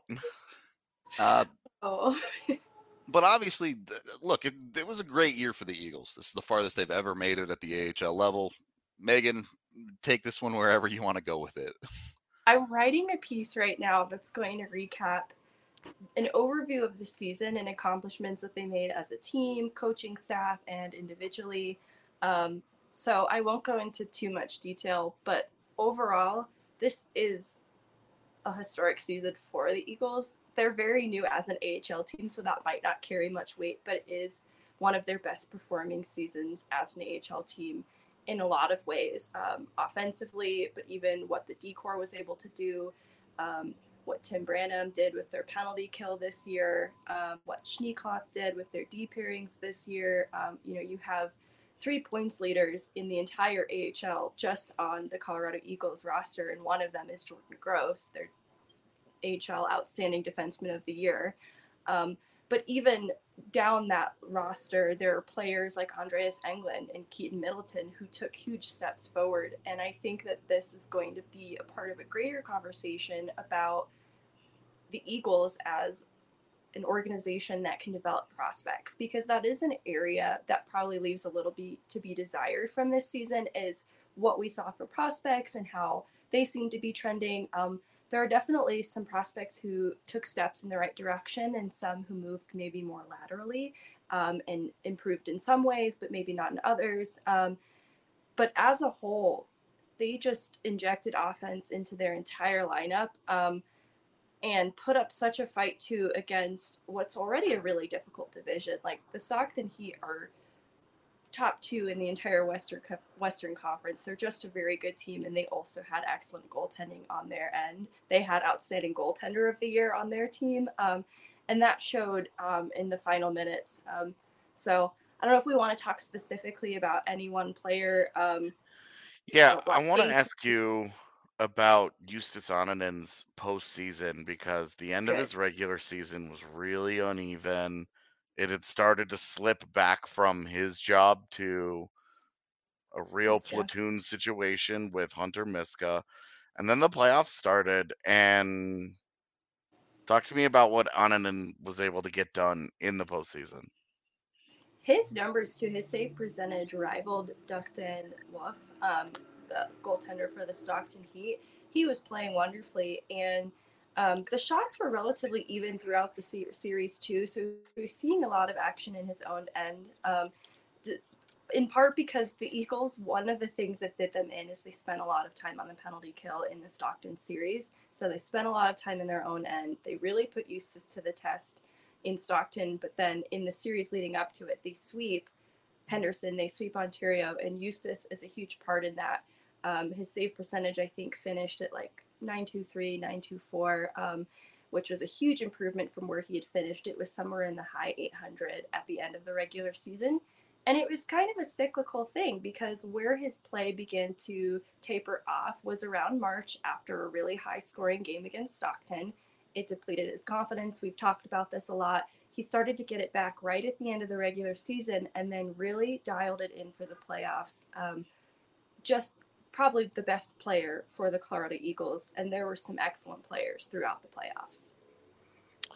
Oh. But obviously, look, it was a great year for the Eagles. This is the farthest they've ever made it at the AHL level. Megan, take this one wherever you want to go with it. I'm writing a piece right now that's going to recap an overview of the season and accomplishments that they made as a team, coaching staff, and individually. So I won't go into too much detail, but overall, this is a historic season for the Eagles. They're very new as an AHL team, so that might not carry much weight, but it is one of their best performing seasons as an AHL team in a lot of ways, offensively, but even what the D-Corps was able to do, what Tim Branham did with their penalty kill this year, what Schneekloth did with their D pairings this year. You have 3 points leaders in the entire AHL just on the Colorado Eagles roster, and one of them is Jordan Gross, their AHL Outstanding Defenseman of the Year. But even down that roster, there are players like Andreas Englund and Keaton Middleton who took huge steps forward. And I think that this is going to be a part of a greater conversation about the Eagles as an organization that can develop prospects, because that is an area that probably leaves a little bit to be desired from this season, is what we saw for prospects and how they seem to be trending. There are definitely some prospects who took steps in the right direction and some who moved maybe more laterally, and improved in some ways, but maybe not in others. But as a whole, they just injected offense into their entire lineup. And put up such a fight too against what's already a really difficult division. Like the Stockton Heat are top 2 in the entire Western Conference. They're just a very good team, and they also had excellent goaltending on their end. They had outstanding goaltender of the year on their team, and that showed in the final minutes. So I don't know if we want to talk specifically about any one player. Yeah, I want to ask you about Justus Annanen's postseason, because the end of his regular season was really uneven. It had started to slip back from his job to a real platoon situation with Hunter Miska. And then the playoffs started, and talk to me about what Annanen was able to get done in the postseason. His numbers to his save percentage rivaled Dustin Wolf, the goaltender for the Stockton Heat. He was playing wonderfully, and the shots were relatively even throughout the series too. So he was seeing a lot of action in his own end. In part because the Eagles, one of the things that did them in is they spent a lot of time on the penalty kill in the Stockton series. So they spent a lot of time in their own end. They really put Justus to the test in Stockton, but then in the series leading up to it, they sweep Henderson, they sweep Ontario, and Justus is a huge part in that. His save percentage, I think, finished at like 923, 924, which was a huge improvement from where he had finished. It was somewhere in the high 800 at the end of the regular season. And it was kind of a cyclical thing, because where his play began to taper off was around March after a really high scoring game against Stockton. It depleted his confidence. We've talked about this a lot. He started to get it back right at the end of the regular season and then really dialed it in for the playoffs. Just probably the best player for the Colorado Eagles. And there were some excellent players throughout the playoffs.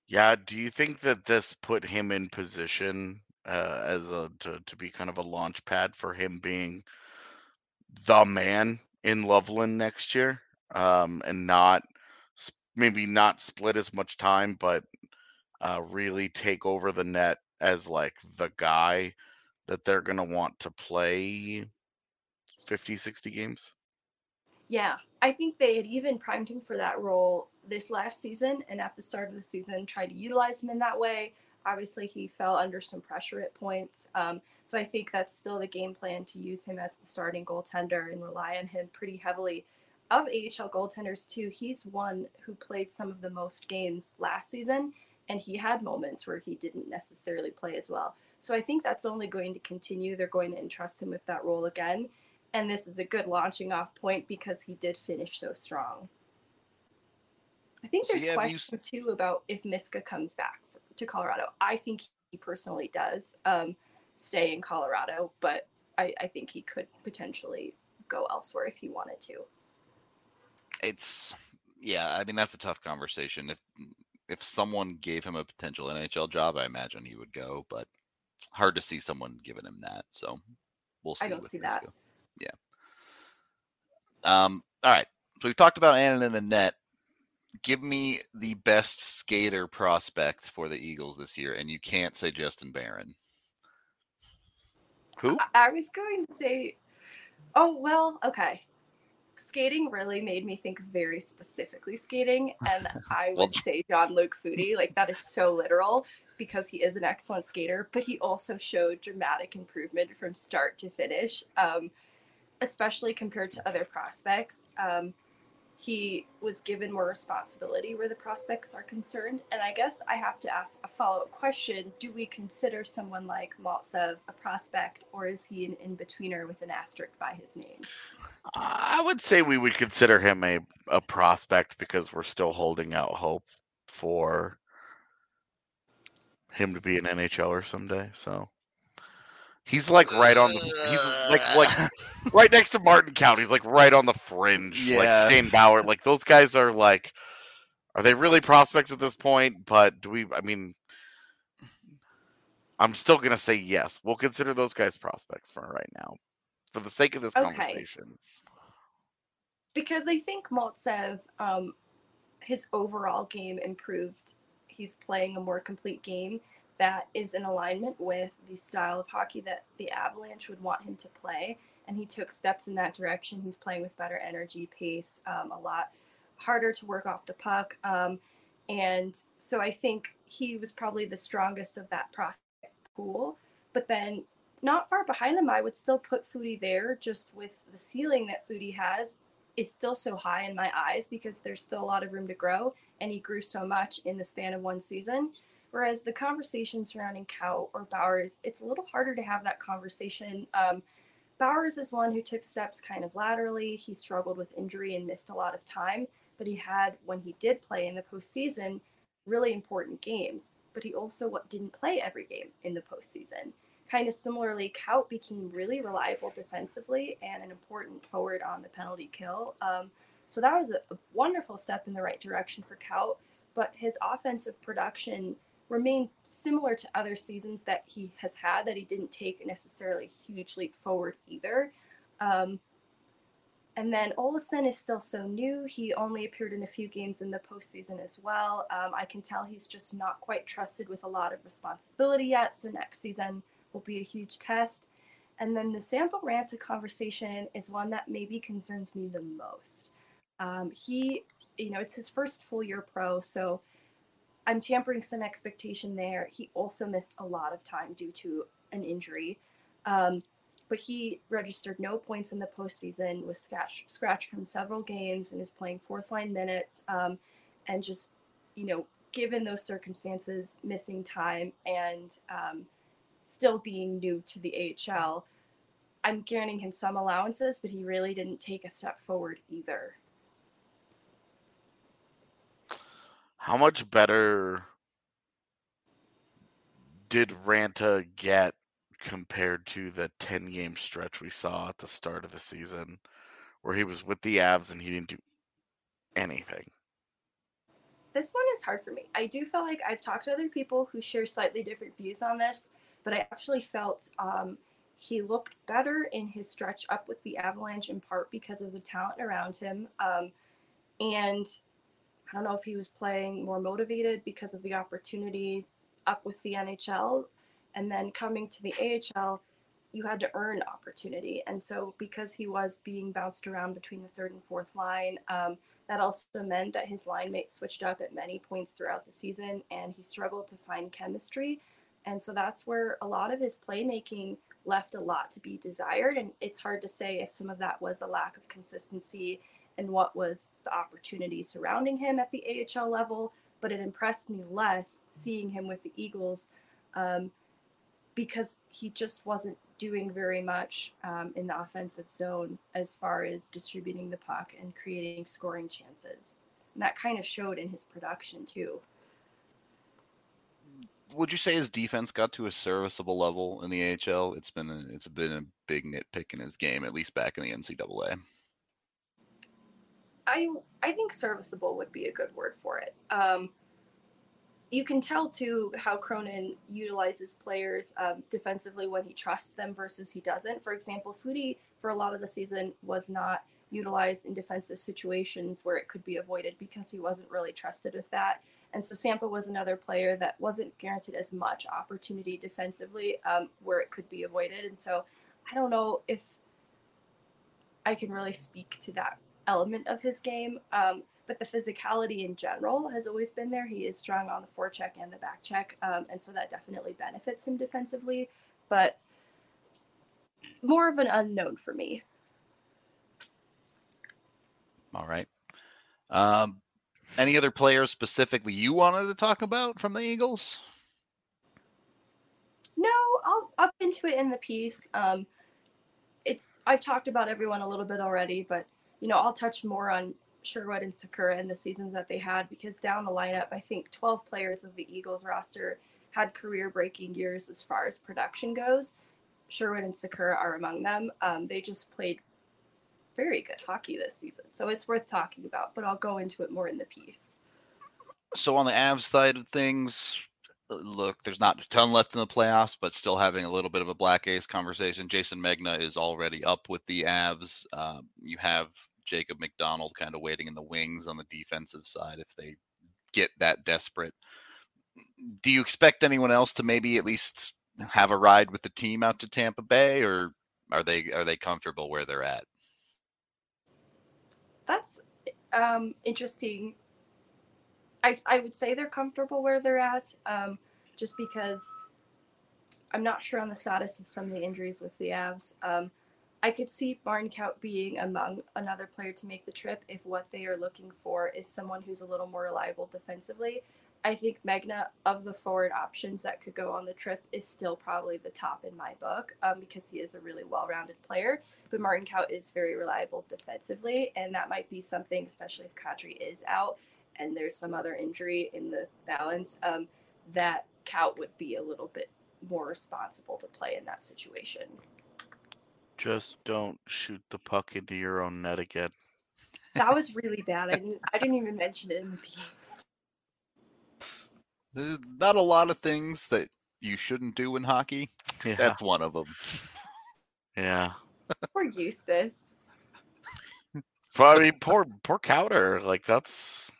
Yeah, do you think that this put him in position to be kind of a launch pad for him being the man in Loveland next year, and maybe not split as much time, but really take over the net as like the guy that they're gonna want to play 50, 60 games? Yeah, I think they had even primed him for that role this last season, and at the start of the season, tried to utilize him in that way. Obviously, he fell under some pressure at points. So I think that's still the game plan, to use him as the starting goaltender and rely on him pretty heavily. Of AHL goaltenders, too, he's one who played some of the most games last season, and he had moments where he didn't necessarily play as well. So I think that's only going to continue. They're going to entrust him with that role again. And this is a good launching off point because he did finish so strong. I think there's question too about if Miska comes back to Colorado. I think he personally does stay in Colorado, but I think he could potentially go elsewhere if he wanted to. I mean, that's a tough conversation. If someone gave him a potential NHL job, I imagine he would go, but hard to see someone giving him that. So we'll see. I don't see that. Yeah. All right. So we've talked about Annan in the net. Give me the best skater prospect for the Eagles this year, and you can't say Justin Barron. Who? I was going to say, okay. Skating really made me think very specifically skating, and I would say Jean-Luc Foudy. Like, that is so literal because he is an excellent skater, but he also showed dramatic improvement from start to finish, especially compared to other prospects. He was given more responsibility where the prospects are concerned. And I guess I have to ask a follow-up question. Do we consider someone like Maltsev a prospect, or is he an in-betweener with an asterisk by his name? I would say we would consider him a prospect because we're still holding out hope for him to be an NHLer someday. So he's like right on he's like right next to Martin Count. He's like right on the fringe. Yeah. Like Shane Bauer. Like those guys are like, are they really prospects at this point? But I'm still gonna say yes. We'll consider those guys prospects for right now, for the sake of this conversation. Because I think Maltsev, his overall game improved. He's playing a more complete game that is in alignment with the style of hockey that the Avalanche would want him to play. And he took steps in that direction. He's playing with better energy, pace, a lot harder to work off the puck. And so I think he was probably the strongest of that prospect pool. But then not far behind him, I would still put Foudy there, just with the ceiling that Foudy has is still so high in my eyes because there's still a lot of room to grow, and he grew so much in the span of one season. Whereas the conversation surrounding Kaut or Bowers, it's a little harder to have that conversation. Bowers is one who took steps kind of laterally. He struggled with injury and missed a lot of time, but he had, when he did play in the postseason, really important games. But he also didn't play every game in the postseason. Kind of similarly, Kaut became really reliable defensively and an important forward on the penalty kill. So that was a wonderful step in the right direction for Kaut, but his offensive production remained similar to other seasons that he has had, that he didn't take necessarily a huge leap forward either. And then Olason is still so new. He only appeared in a few games in the postseason as well. I can tell he's just not quite trusted with a lot of responsibility yet. So next season will be a huge test. And then the Sampo Ranta conversation is one that maybe concerns me the most. It's his first full year pro, so I'm tampering some expectation there. He also missed a lot of time due to an injury. But he registered no points in the postseason, was scratched from several games, and is playing fourth line minutes. And just, given those circumstances, missing time and still being new to the AHL, I'm granting him some allowances, but he really didn't take a step forward either. How much better did Ranta get compared to the 10-game stretch we saw at the start of the season where he was with the Avs and he didn't do anything? This one is hard for me. I do feel like I've talked to other people who share slightly different views on this, but I actually felt he looked better in his stretch up with the Avalanche, in part because of the talent around him. And I don't know if he was playing more motivated because of the opportunity up with the NHL. And then coming to the AHL, you had to earn opportunity. And so because he was being bounced around between the third and fourth line, that also meant that his line mates switched up at many points throughout the season, and he struggled to find chemistry. And so that's where a lot of his playmaking left a lot to be desired. And it's hard to say if some of that was a lack of consistency and what was the opportunity surrounding him at the AHL level. But it impressed me less seeing him with the Eagles because he just wasn't doing very much in the offensive zone as far as distributing the puck and creating scoring chances. And that kind of showed in his production too. Would you say his defense got to a serviceable level in the AHL? It's been a big nitpick in his game, at least back in the NCAA. I think serviceable would be a good word for it. You can tell too how Cronin utilizes players defensively when he trusts them versus he doesn't. For example, Foudy for a lot of the season was not utilized in defensive situations where it could be avoided because he wasn't really trusted with that. And so Sampa was another player that wasn't guaranteed as much opportunity defensively where it could be avoided. And so I don't know if I can really speak to that element of his game. But the physicality in general has always been there. He is strong on the forecheck and the back check. And so that definitely benefits him defensively. But more of an unknown for me. All right. Any other players specifically you wanted to talk about from the Eagles? No, I'll up into it in the piece. I've talked about everyone a little bit already, but I'll touch more on Sherwood and Sakura and the seasons that they had, because down the lineup, I think 12 players of the Eagles roster had career-breaking years as far as production goes. Sherwood and Sakura are among them. They just played very good hockey this season, so it's worth talking about, but I'll go into it more in the piece. So on the Avs side of things, look, there's not a ton left in the playoffs, but still having a little bit of a black ace conversation. Jason Megna is already up with the Avs. You have Jacob McDonald kind of waiting in the wings on the defensive side if they get that desperate. Do you expect anyone else to maybe at least have a ride with the team out to Tampa Bay, or are they comfortable where they're at? That's interesting. I would say they're comfortable where they're at, just because I'm not sure on the status of some of the injuries with the Avs. I could see Barnkout being among another player to make the trip if what they are looking for is someone who's a little more reliable defensively. I think Megna, of the forward options that could go on the trip, is still probably the top in my book because he is a really well-rounded player. But Martin Kaut is very reliable defensively, and that might be something, especially if Kadri is out and there's some other injury in the balance, that Kaut would be a little bit more responsible to play in that situation. Just don't shoot the puck into your own net again. That was really bad. I didn't even mention it in the piece. There's not a lot of things that you shouldn't do in hockey. Yeah. That's one of them. Yeah. Poor Eustace. I mean, poor Cowder. Like, that's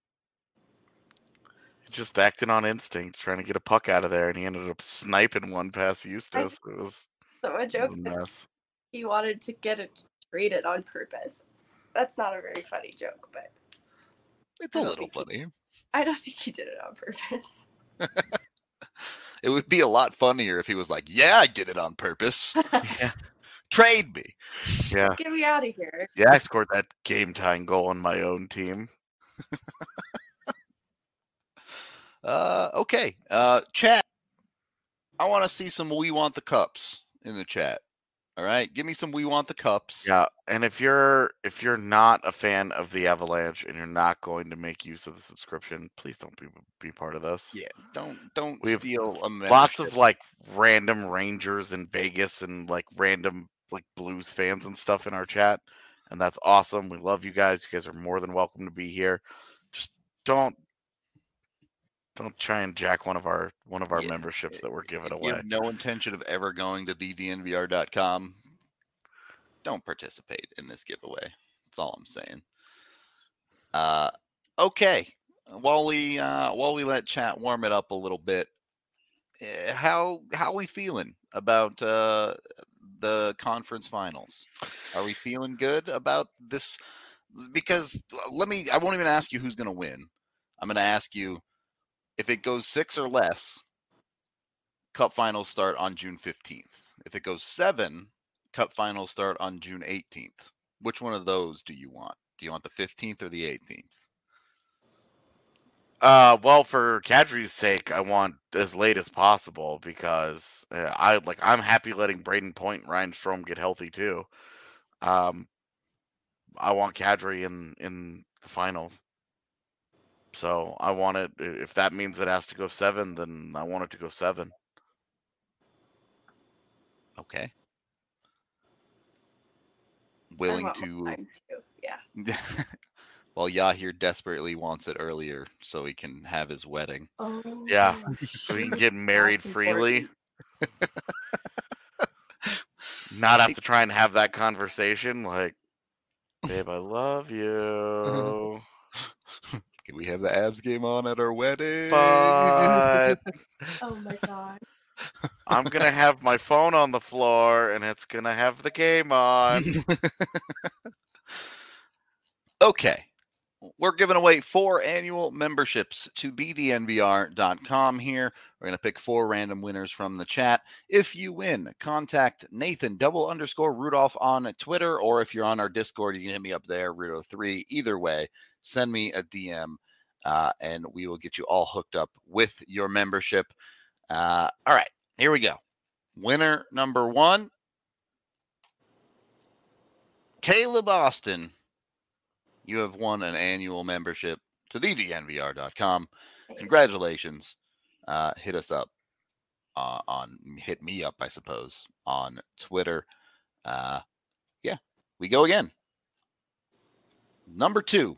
just acting on instinct, trying to get a puck out of there, and he ended up sniping one past Eustace. It was so a joke. A mess. He wanted to get it traded on purpose. That's not a very funny joke, but it's a little funny. I don't think he did it on purpose. It would be a lot funnier if he was like, "Yeah, I did it on purpose. Yeah. Trade me. Yeah. Get me out of here." Yeah, I scored that game-tying goal on my own team. Okay. Chat. I want to see some "We Want the Cups" in the chat. All right, give me some "We Want the Cups." Yeah, and if you're not a fan of the Avalanche and you're not going to make use of the subscription, please don't be part of this. Yeah, don't steal a membership. Lots of like random Rangers in Vegas and like random like Blues fans and stuff in our chat, and that's awesome. We love you guys. You guys are more than welcome to be here. Just don't Don't try and jack one of our Yeah, memberships that we're giving If you away. have no intention of ever going to thednvr.com, don't participate in this giveaway. That's all I'm saying. Okay. While we let chat warm it up a little bit, how we feeling about the conference finals? Are we feeling good about this? Because I won't even ask you who's going to win. I'm going to ask you if it goes 6 or less, Cup finals start on June 15th. If it goes 7, Cup finals start on June 18th. Which one of those do you want? Do you want the 15th or the 18th? Well, for Kadri's sake, I want as late as possible because I'm happy letting Braden Point and Ryan Strome get healthy too. I want Kadri in the finals. So I want it. If that means it has to go 7, then I want it to go 7. Okay. I Willing want more to. time too. Yeah. Well, Yahir desperately wants it earlier so he can have his wedding. Oh. Yeah. So he can get married That's freely. important. Not have to try and have that conversation like, babe, I love you. Can we have the abs game on at our wedding? But Oh my god. I'm going to have my phone on the floor and it's going to have the game on. Okay. We're giving away 4 annual memberships to thednvr.com here. We're going to pick 4 random winners from the chat. If you win, contact Nathan _Rudolph on Twitter, or if you're on our Discord, you can hit me up there, Rudo3. Either way, send me a DM, and we will get you all hooked up with your membership. All right, here we go. Winner number 1, Caleb Austin. You have won an annual membership to thednvr.com. Congratulations. Hit us up hit me up, I suppose, on Twitter. Yeah, we go again. Number 2,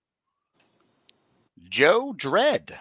Joe Dredd.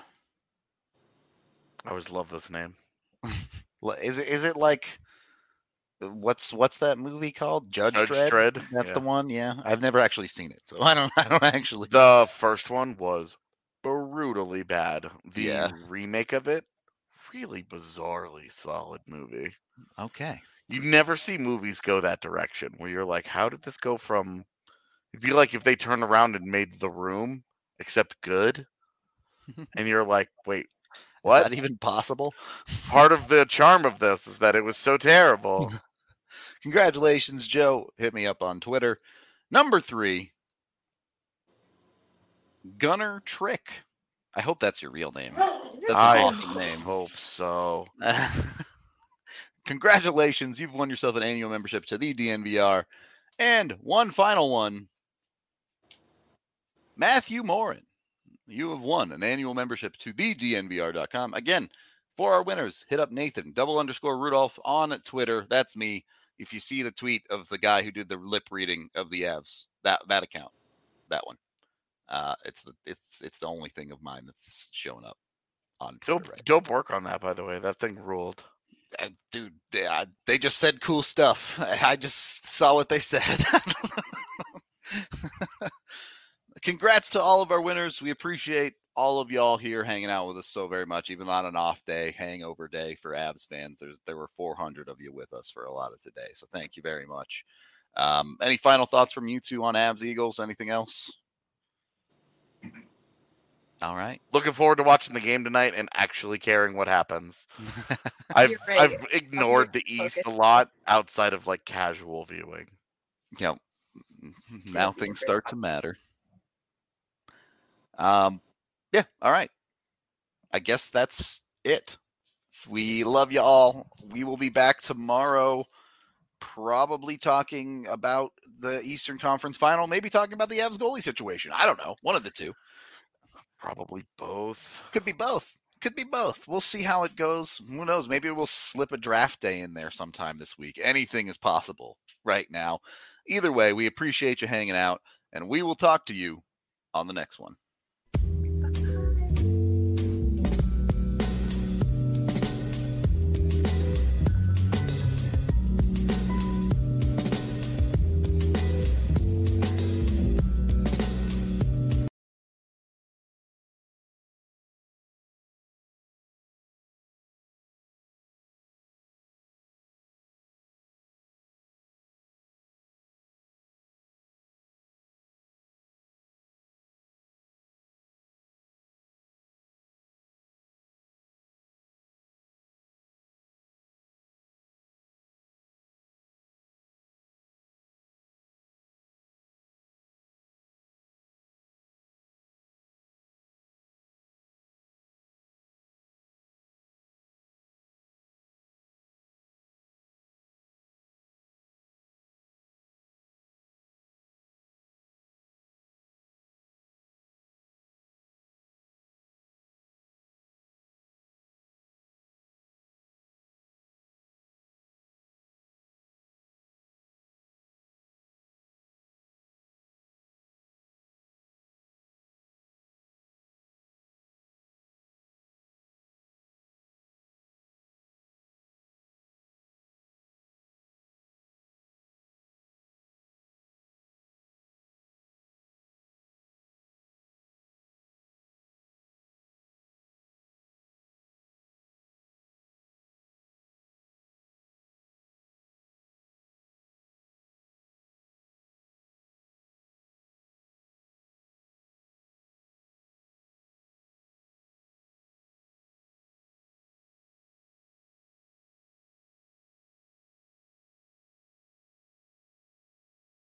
I always love this name. Is it like what's that movie called? Judge Dredd? That's the one. Yeah, I've never actually seen it, so I don't actually. The first one was brutally bad. The remake of it, really bizarrely solid movie. Okay. You never see movies go that direction where you're like, how did this go from? It'd be like if they turned around and made The Room, except good, and you're like, wait, what? Is that even possible? Part of the charm of this is that it was so terrible. Congratulations, Joe. Hit me up on Twitter. Number 3, Gunner Trick. I hope that's your real name. That's an awesome name. Hope so. Congratulations. You've won yourself an annual membership to the DNVR. And one final one, Matthew Morin. You have won an annual membership to thednvr.com. Again, for our winners, hit up Nathan _Rudolph on Twitter. That's me. If you see the tweet of the guy who did the lip reading of the Avs, that account, that one, it's the only thing of mine that's showing up on Twitter. Dope work on that, by the way. That thing ruled. Dude, they just said cool stuff. I just saw what they said. Congrats to all of our winners. We appreciate all of y'all here hanging out with us so very much, even on an off day, hangover day for Avs fans. There were 400 of you with us for a lot of today, so thank you very much. Any final thoughts from you two on Avs Eagles? Anything else? All right. Looking forward to watching the game tonight and actually caring what happens. I've ignored the East a lot outside of like casual viewing. Yeah. Now things start to matter. Yeah. All right. I guess that's it. We love you all. We will be back tomorrow, probably talking about the Eastern Conference Final, maybe talking about the Avs goalie situation. I don't know. One of the two. Probably both. Could be both. Could be both. We'll see how it goes. Who knows? Maybe we'll slip a draft day in there sometime this week. Anything is possible right now. Either way, we appreciate you hanging out, and we will talk to you on the next one.